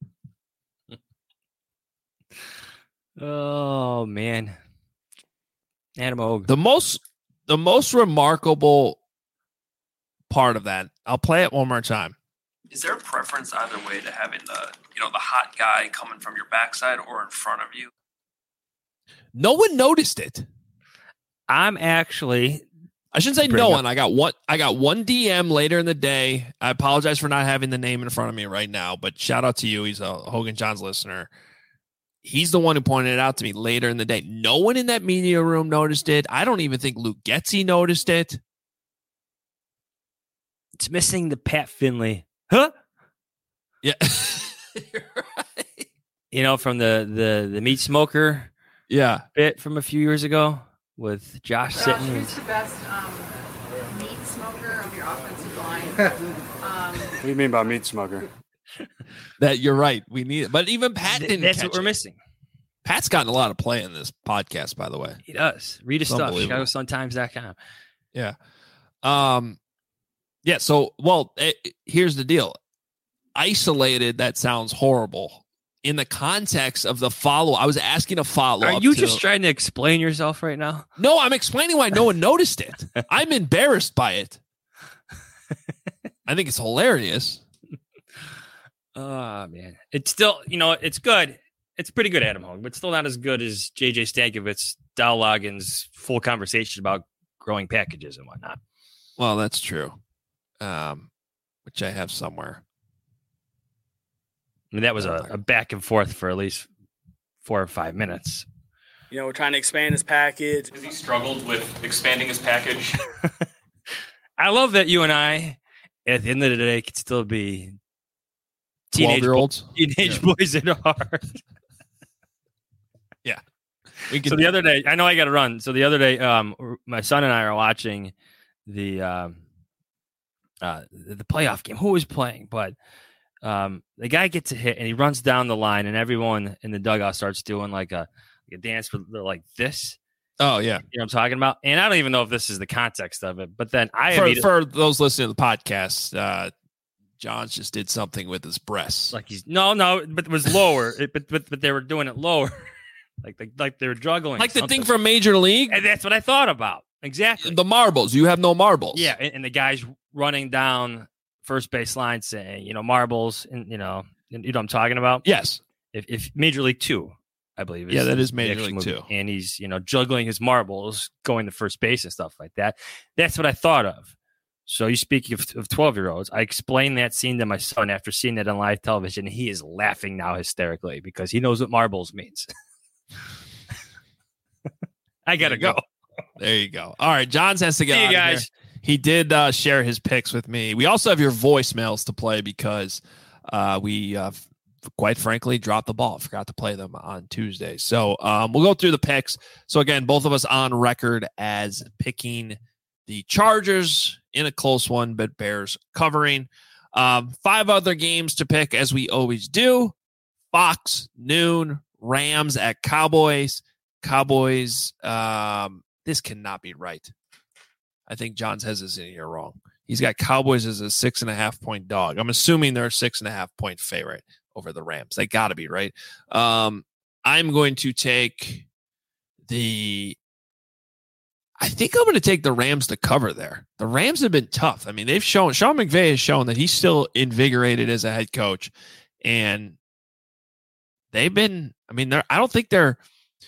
M: you?
I: Oh man. Adam Hogue.
L: The most the most remarkable part of that, I'll play it one more time.
M: Is there a preference either way to having the you know the hot guy coming from your backside or in front of you?
L: No one noticed it.
I: I'm actually
L: I shouldn't say no one. I got one I got one D M later in the day. I apologize for not having the name in front of me right now, but shout out to you. He's a Hogan Johns listener. He's the one who pointed it out to me later in the day. No one in that media room noticed it. I don't even think Luke Getsy noticed it.
I: It's missing the Pat Finley. Huh?
L: Yeah. You're right.
I: You know, from the, the, the meat smoker
L: yeah.
I: bit from a few years ago with Josh
N: Josh,
I: sitting.
N: Who's the best um, meat smoker of your offensive line? um,
E: What do you mean by meat smoker?
L: That you're right. We need it. But even Pat didn't
I: That's
L: catch
I: what we're
L: it.
I: missing.
L: Pat's gotten a lot of play in this podcast, by the way.
I: He does. Read his
L: It's
I: stuff.
L: unbelievable.
I: Chicago Sun Times dot com.
L: Yeah. Um, yeah. So, well, it, here's the deal. Isolated, that sounds horrible. In the context of the follow, I was asking a follow.
I: Are you just trying to explain yourself right now?
L: No, I'm explaining why no one noticed it. I'm embarrassed by it. I think it's hilarious.
I: Oh, man. It's still, you know, it's good. It's pretty good, Adam Hogue, but still not as good as J J Stankovic, Dow Loggins' full conversation about growing packages and whatnot.
L: Well, that's true. Um, which I have somewhere.
I: I mean, that was a, a back and forth for at least four or five minutes.
O: You know, we're trying to expand his package.
M: Has he struggled with expanding his package?
I: I love that you and I, at the end of the day, could still be teenage
L: twelve-year-olds,
I: teenage
L: yeah.
I: boys at heart.
L: Yeah. We can,
I: so the other day, I know I got to run. So the other day, um, my son and I are watching the um, uh, the playoff game. Who was playing? But um, the guy gets a hit and he runs down the line, and everyone in the dugout starts doing like a, like a dance for like this.
L: Oh yeah,
I: you know what I'm talking about. And I don't even know if this is the context of it. But then I
L: for, for those listening to the podcast, uh, John just did something with his breasts.
I: Like he's no, no, but it was lower. it, but but but they were doing it lower. Like they, like they were juggling.
L: Like
I: something.
L: the thing from Major League?
I: And that's what I thought about. Exactly.
L: The marbles. You have no marbles.
I: Yeah, and, and the guy's running down first base line saying, you know, marbles, and you know, and, you know what I'm talking about?
L: Yes.
I: If, if Major League Two, I believe.
L: Yeah, that
I: his
L: is Major
I: next
L: League
I: movie.
L: too.
I: And he's, you know, juggling his marbles, going to first base and stuff like that. That's what I thought of. So you speak of, of twelve-year-olds. I explained that scene to my son after seeing that on live television. He is laughing now hysterically because he knows what marbles means. I got to go.
L: go. There you go. All right, Johns has to get
I: See you
L: out
I: guys.
L: of here. He did uh, share his picks with me. We also have your voicemails to play because uh, we, uh, f- quite frankly, dropped the ball. Forgot to play them on Tuesday. So um, we'll go through the picks. So, again, both of us on record as picking the Chargers in a close one, but Bears covering. Um, five other games to pick, as we always do. Fox, noon, Rams at Cowboys. Cowboys, um, this cannot be right. I think Johns has this in here wrong. He's got Cowboys as a six and a half point dog. I'm assuming they're a six and a half point favorite over the Rams. They got to be, right? Um, I'm going to take the I think I'm going to take the Rams to cover there. The Rams have been tough. I mean, they've shown, Sean McVay has shown that he's still invigorated as a head coach. And they've been, I mean, they're, I don't think they're,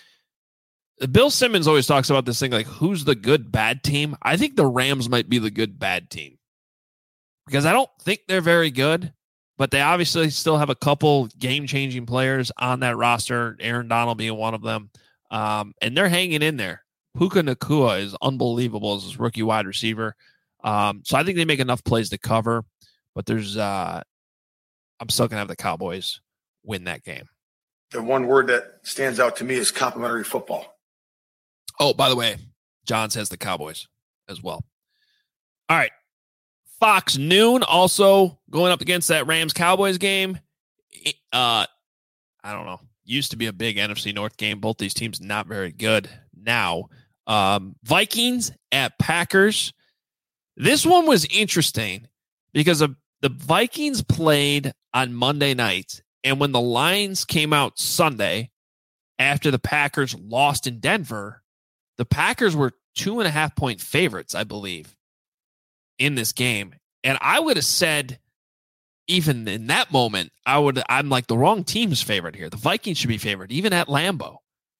L: Bill Simmons always talks about this thing like, who's the good, bad team? I think the Rams might be the good, bad team. Because I don't think they're very good, but they obviously still have a couple game-changing players on that roster, Aaron Donald being one of them. Um, and they're hanging in there. Puka Nacua is unbelievable as his rookie wide receiver. Um, so I think they make enough plays to cover, but there's, uh, I'm still going to have the Cowboys win that game.
P: The one word that stands out to me is complimentary football.
L: Oh, by the way, Johns has the Cowboys as well. All right. Fox noon also going up against that Rams Cowboys game. Uh, I don't know. Used to be a big N F C North game. Both these teams not very good now. Um, Vikings at Packers. This one was interesting because of the Vikings played on Monday night, and when the lines came out Sunday after the Packers lost in Denver, the Packers were two and a half point favorites, I believe, in this game. And I would have said, even in that moment, I would, I'm like the wrong team's favorite here. The Vikings should be favored, even at Lambeau.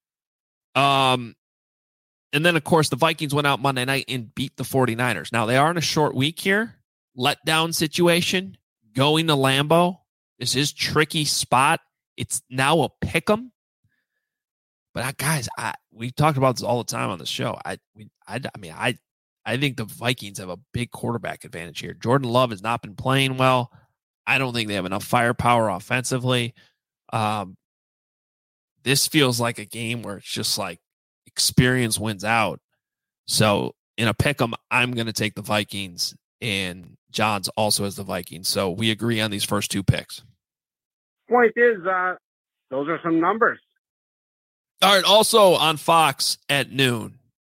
L: Um, and then, of course, the Vikings went out Monday night and beat the 49ers. Now, they are in a short week here. Letdown situation. Going to Lambeau. This is tricky spot. It's now a pick 'em. But, I, guys, I, we talked about this all the time on the show. I, we, I, I mean, I, I think the Vikings have a big quarterback advantage here. Jordan Love has not been playing well. I don't think they have enough firepower offensively. Um, this feels like a game where it's just like experience wins out. So in a pick 'em, I'm going to take the Vikings, and Johns also has the Vikings. So we agree on these first two picks.
D: Point is, uh, those are some numbers.
L: All right. Also on Fox at noon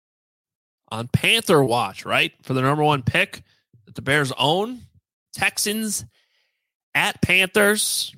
L: on Panther Watch, right? For the number one pick that the Bears own, Texans at Panthers.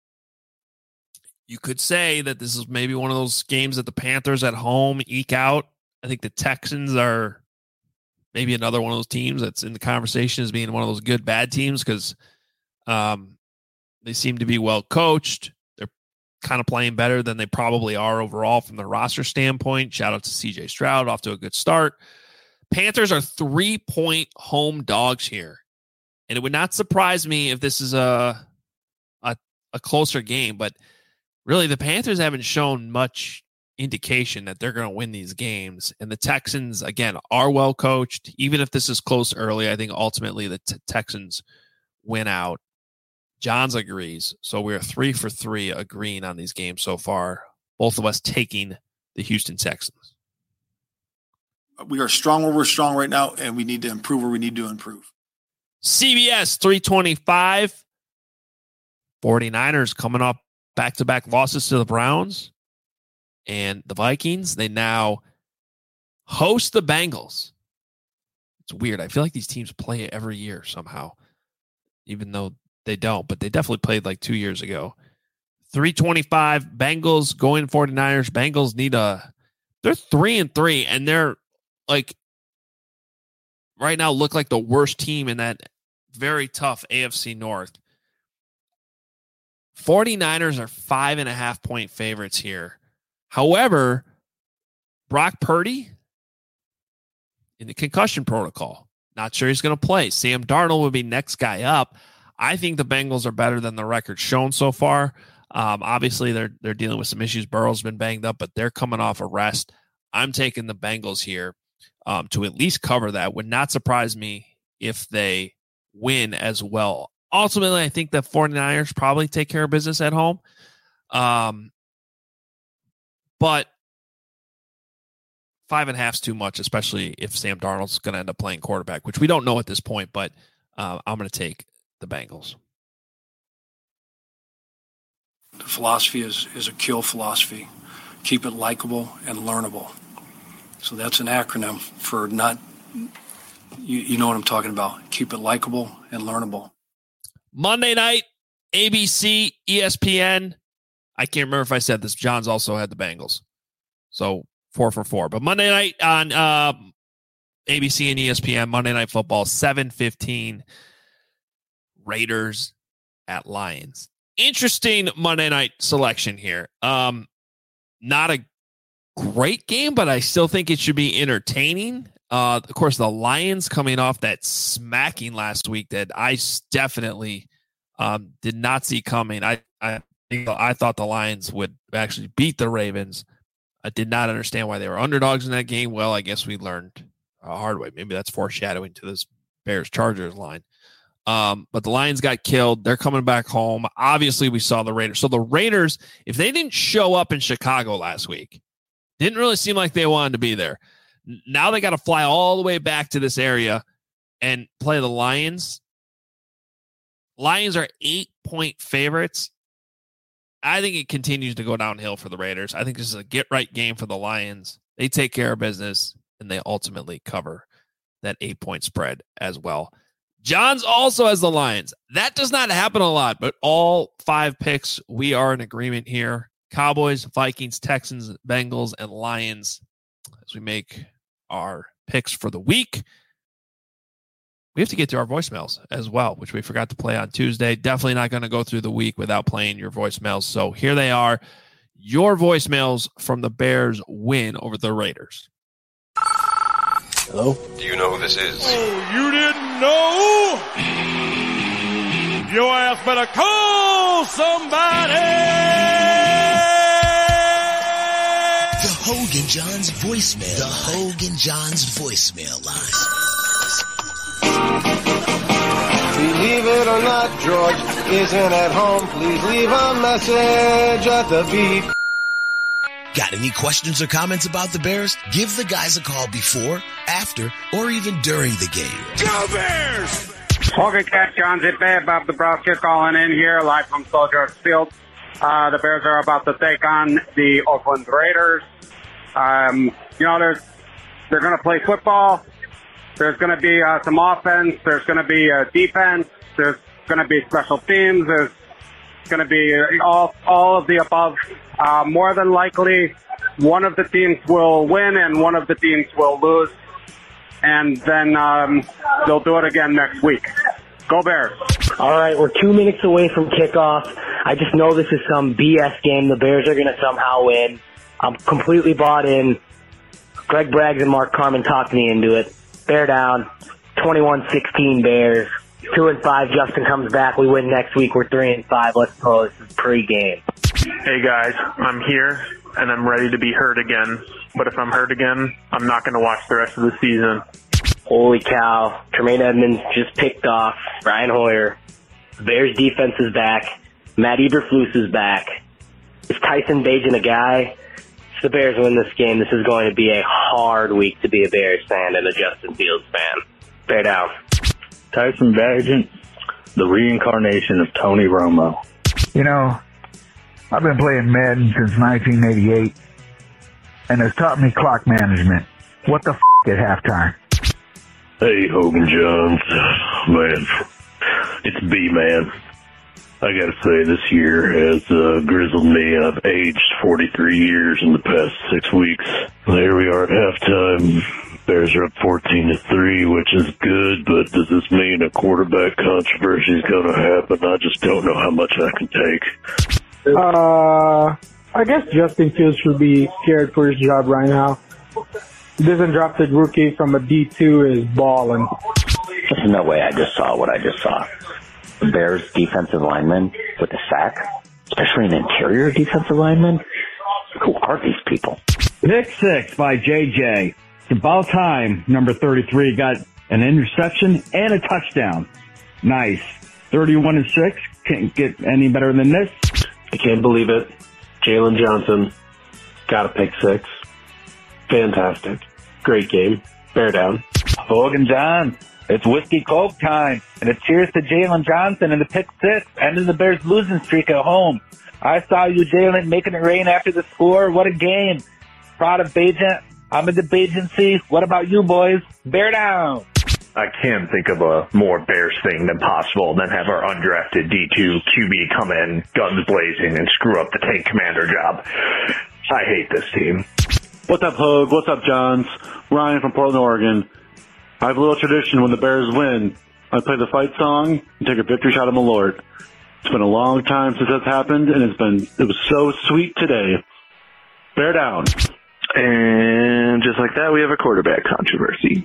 L: You could say that this is maybe one of those games that the Panthers at home eke out. I think the Texans are maybe another one of those teams that's in the conversation as being one of those good, bad teams because um, they seem to be well coached. They're kind of playing better than they probably are overall from the roster standpoint. Shout out to C J Stroud, off to a good start. Panthers are three-point home dogs here. And it would not surprise me if this is a, a a closer game, but really the Panthers haven't shown much indication that they're going to win these games. And the Texans, again, are well coached. Even if this is close early, I think ultimately the t- Texans win out. Johns agrees. So we're three for three agreeing on these games so far. Both of us taking the Houston Texans.
P: We are strong where we're strong right now, and we need to improve where we need to improve.
L: C B S three twenty-five. 49ers coming up back-to-back losses to the Browns. And the Vikings, they now host the Bengals. It's weird. I feel like these teams play it every year somehow, even though they don't. But they definitely played like two years ago. three twenty-five. Bengals going 49ers. Bengals need a – they're three and three, and they're like – right now look like the worst team in that very tough A F C North. 49ers are five and a half point favorites here However, Brock Purdy in the concussion protocol. Not sure he's going to play. Sam Darnold would be next guy up. I think the Bengals are better than the record shown so far. Um, obviously, they're they're dealing with some issues. Burrow's been banged up, but they're coming off a rest. I'm taking the Bengals here um, to at least cover that. Would not surprise me if they win as well. Ultimately, I think the 49ers probably take care of business at home. Um, but five and a half is too much, especially if Sam Darnold's going to end up playing quarterback, which we don't know at this point, but uh, I'm going to take the Bengals.
Q: The philosophy is, is a kill philosophy. Keep it likable and learnable. So that's an acronym for not, you, you know what I'm talking about. Keep it likable and learnable.
L: Monday night, A B C, E S P N. I can't remember if I said this. John's also had the Bengals. So four for four. But Monday night on uh, A B C and E S P N, Monday Night Football, seven fifteen, Raiders at Lions. Interesting Monday night selection here. Um, not a great game, but I still think it should be entertaining. Uh, of course, the Lions coming off that smacking last week that I definitely um, did not see coming. I, I I thought the Lions would actually beat the Ravens. I did not understand why they were underdogs in that game. Well, I guess we learned a hard way. Maybe that's foreshadowing to this Bears-Chargers line. Um, but the Lions got killed. They're coming back home. Obviously, we saw the Raiders. So the Raiders, if they didn't show up in Chicago last week, didn't really seem like they wanted to be there. Now they got to fly all the way back to this area and play the Lions. Lions are eight-point favorites. I think it continues to go downhill for the Raiders. I think this is a get-right game for the Lions. They take care of business, and they ultimately cover that eight-point spread as well. John's also has the Lions. That does not happen a lot, but all five picks, we are in agreement here. Cowboys, Vikings, Texans, Bengals, and Lions as we make our picks for the week. We have to get to our voicemails as well, which we forgot to play on Tuesday. Definitely not going to go through the week without playing your voicemails. So here they are, your voicemails from the Bears win over the Raiders.
C: Hello?
B: Do you know who this is?
J: Oh, you didn't know? Your ass better call somebody!
C: The Hogan Johns voicemail. The Hogan Johns voicemail line.
R: Believe it or not, George isn't at home. Please leave a message at the beep.
C: Got any questions or comments about the Bears? Give the guys a call before, after, or even during the game.
D: Go Bears! Hogan Cat, John Zippe, Bob Dabrowski calling in here live from Soldier Field. Uh, the Bears are about to take on the Oakland Raiders. Um, you know, there's, they're going to play football. There's going to be uh, some offense. There's going to be uh, defense. There's going to be special teams. There's going to be all all of the above. Uh, more than likely, one of the teams will win and one of the teams will lose. And then um, they'll do it again next week. Go Bears.
S: All right, we're two minutes away from kickoff. I just know this is some B S game. The Bears are going to somehow win. I'm completely bought in. Greg Braggs and Mark Carman talked me into it. Bear down, twenty-one sixteen Bears. Two and five, Justin comes back. We win next week. We're three and five. Let's go. This is pre-game.
T: Hey guys, I'm here and I'm ready to be hurt again. But if I'm hurt again, I'm not going to watch the rest of the season.
S: Holy cow. Tremaine Edmonds just picked off Brian Hoyer. The Bears defense is back. Matt Eberflus is back. Is Tyson Bagent a guy? If the Bears win this game, this is going to be a hard week to be a Bears fan and a Justin Fields fan. Bear down.
U: Tyson Bagent, the reincarnation of Tony Romo.
V: You know, I've been playing Madden since nineteen eighty-eight, and it's taught me clock management. What the f*** at halftime?
U: Hey, Hogan Johns. Man, it's B-Man. I gotta say, this year has uh, grizzled me. I've aged forty-three years in the past six weeks. There we are at halftime. Bears are up fourteen to three, which is good, but does this mean a quarterback controversy is gonna happen? I just don't know how much I can take.
W: Uh,
A: I guess Justin Fields should be scared for his job right now. This undrafted rookie from a D two is balling.
E: There's no way I just saw what I just saw. The Bears defensive lineman with a sack, especially an interior defensive lineman. Who are these people?
F: Pick six by J J. It's about time number thirty-three got an interception and a touchdown. Nice. thirty-one and six. Can't get any better than this.
W: I can't believe it. Jalen Johnson got a pick six. Fantastic. Great game. Bear down.
F: Hogan John, it's Whiskey Coke time. And it's cheers to Jalen Johnson and the pick six. Ending the Bears losing streak at home. I saw you, Jalen, making it rain after the score. What a game. Proud of Bajent. I'm in the Bajency. What about you, boys? Bear down.
U: I can't think of a more Bears thing than possible than have our undrafted D two Q B come in, guns blazing, and screw up the tank commander job. I hate this team.
X: What's up, Hogue? What's up, Johns? Ryan from Portland, Oregon. I have a little tradition when the Bears win. I play the fight song and take a victory shot at Malort. It's been a long time since that's happened, and it's been it was so sweet today. Bear down.
U: And just like that, we have a quarterback controversy.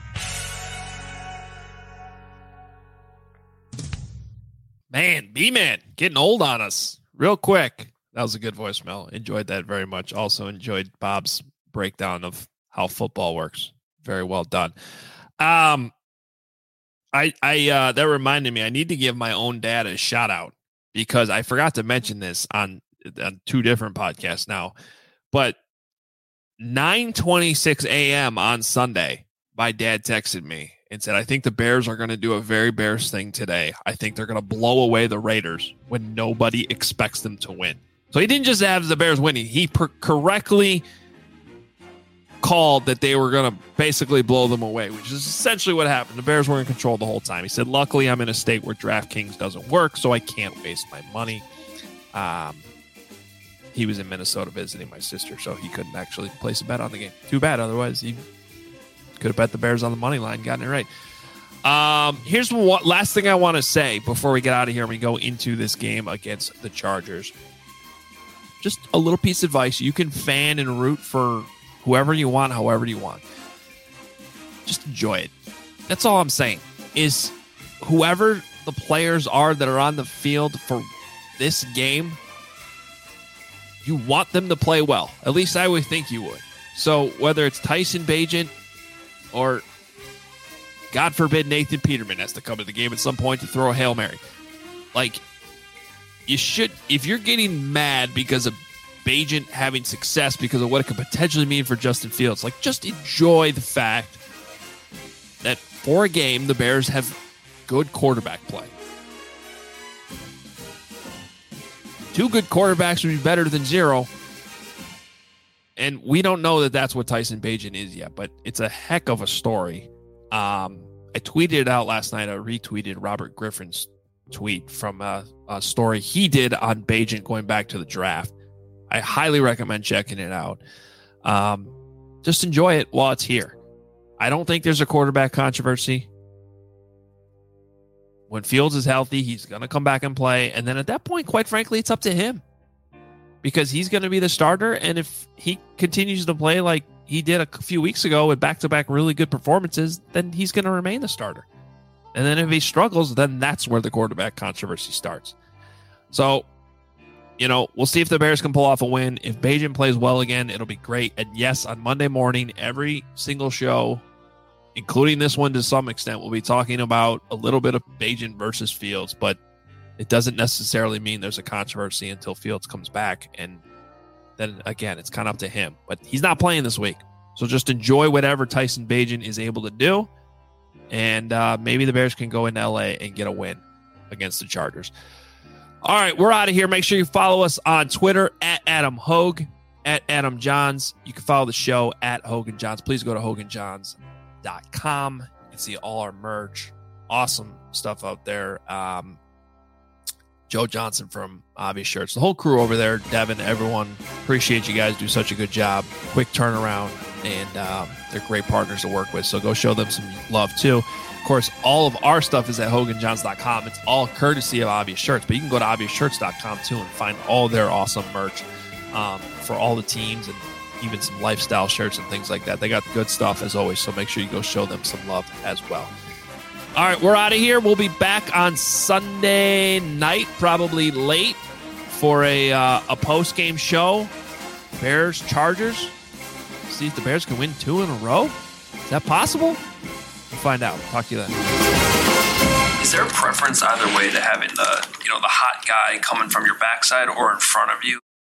L: Man, B-Man, getting old on us real quick. That was a good voicemail. Enjoyed that very much. Also enjoyed Bob's breakdown of how football works. Very well done. Um, I, I, uh, that reminded me, I need to give my own dad a shout out because I forgot to mention this on, on two different podcasts now, but nine twenty-six a.m. on Sunday, my dad texted me and said, I think the Bears are going to do a very Bears thing today. I think they're going to blow away the Raiders when nobody expects them to win. So he didn't just have the Bears winning. He per- correctly called that they were going to basically blow them away, which is essentially what happened. The Bears were in control the whole time. He said, luckily, I'm in a state where DraftKings doesn't work, so I can't waste my money. Um, he was in Minnesota visiting my sister, so he couldn't actually place a bet on the game. Too bad. Otherwise, he could have bet the Bears on the money line, gotten it right. Um, here's what last thing I want to say before we get out of here and we go into this game against the Chargers. Just a little piece of advice. You can fan and root for whoever you want, however you want. Just enjoy it. That's all I'm saying. Is whoever the players are that are on the field for this game, you want them to play well. At least I would think you would. So whether it's Tyson Bagent or, God forbid, Nathan Peterman has to come to the game at some point to throw a Hail Mary. Like, you should, if you're getting mad because of Bagent having success because of what it could potentially mean for Justin Fields, like, just enjoy the fact that for a game, the Bears have good quarterback play. Two good quarterbacks would be better than zero. And we don't know that that's what Tyson Bagent is yet, but it's a heck of a story. Um, I tweeted it out last night. I retweeted Robert Griffin's tweet from a, a story he did on Bagent going back to the draft. I highly recommend checking it out. Um, just enjoy it while it's here. I don't think there's a quarterback controversy. When Fields is healthy, he's going to come back and play. And then at that point, quite frankly, it's up to him. Because he's going to be the starter, and if he continues to play like he did a few weeks ago with back-to-back really good performances, then he's going to remain the starter. And then if he struggles, then that's where the quarterback controversy starts. So, you know, we'll see if the Bears can pull off a win. If Bagent plays well again, it'll be great. And yes, on Monday morning, every single show, including this one to some extent, we'll be talking about a little bit of Bagent versus Fields, but it doesn't necessarily mean there's a controversy until Fields comes back. And then, again, it's kind of up to him. But he's not playing this week. So just enjoy whatever Tyson Bagent is able to do. And uh, maybe the Bears can go into L A and get a win against the Chargers. All right, we're out of here. Make sure you follow us on Twitter at Adam Hogue, at Adam Johns. You can follow the show at Hogan Johns. Please go to Hogan Johns dot com. You can see all our merch. Awesome stuff out there. Um, Joe Johnson from Obvious Shirts. The whole crew over there, Devin, everyone, appreciate you guys. Do such a good job. Quick turnaround, and um, they're great partners to work with, so go show them some love, too. Of course, all of our stuff is at Hogan Johns dot com. It's all courtesy of Obvious Shirts, but you can go to Obvious Shirts dot com, too, and find all their awesome merch. um, for all the teams and even some lifestyle shirts and things like that. They got good stuff as always, so make sure you go show them some love as well. All right, we're out of here. We'll be back on Sunday night, probably late, for a uh, a post game show. Bears Chargers. See if the Bears can win two in a row. Is that possible? We'll find out. Talk to you then.
M: Is there a preference either way to having the, you know, the hot guy coming from your backside or in front of you?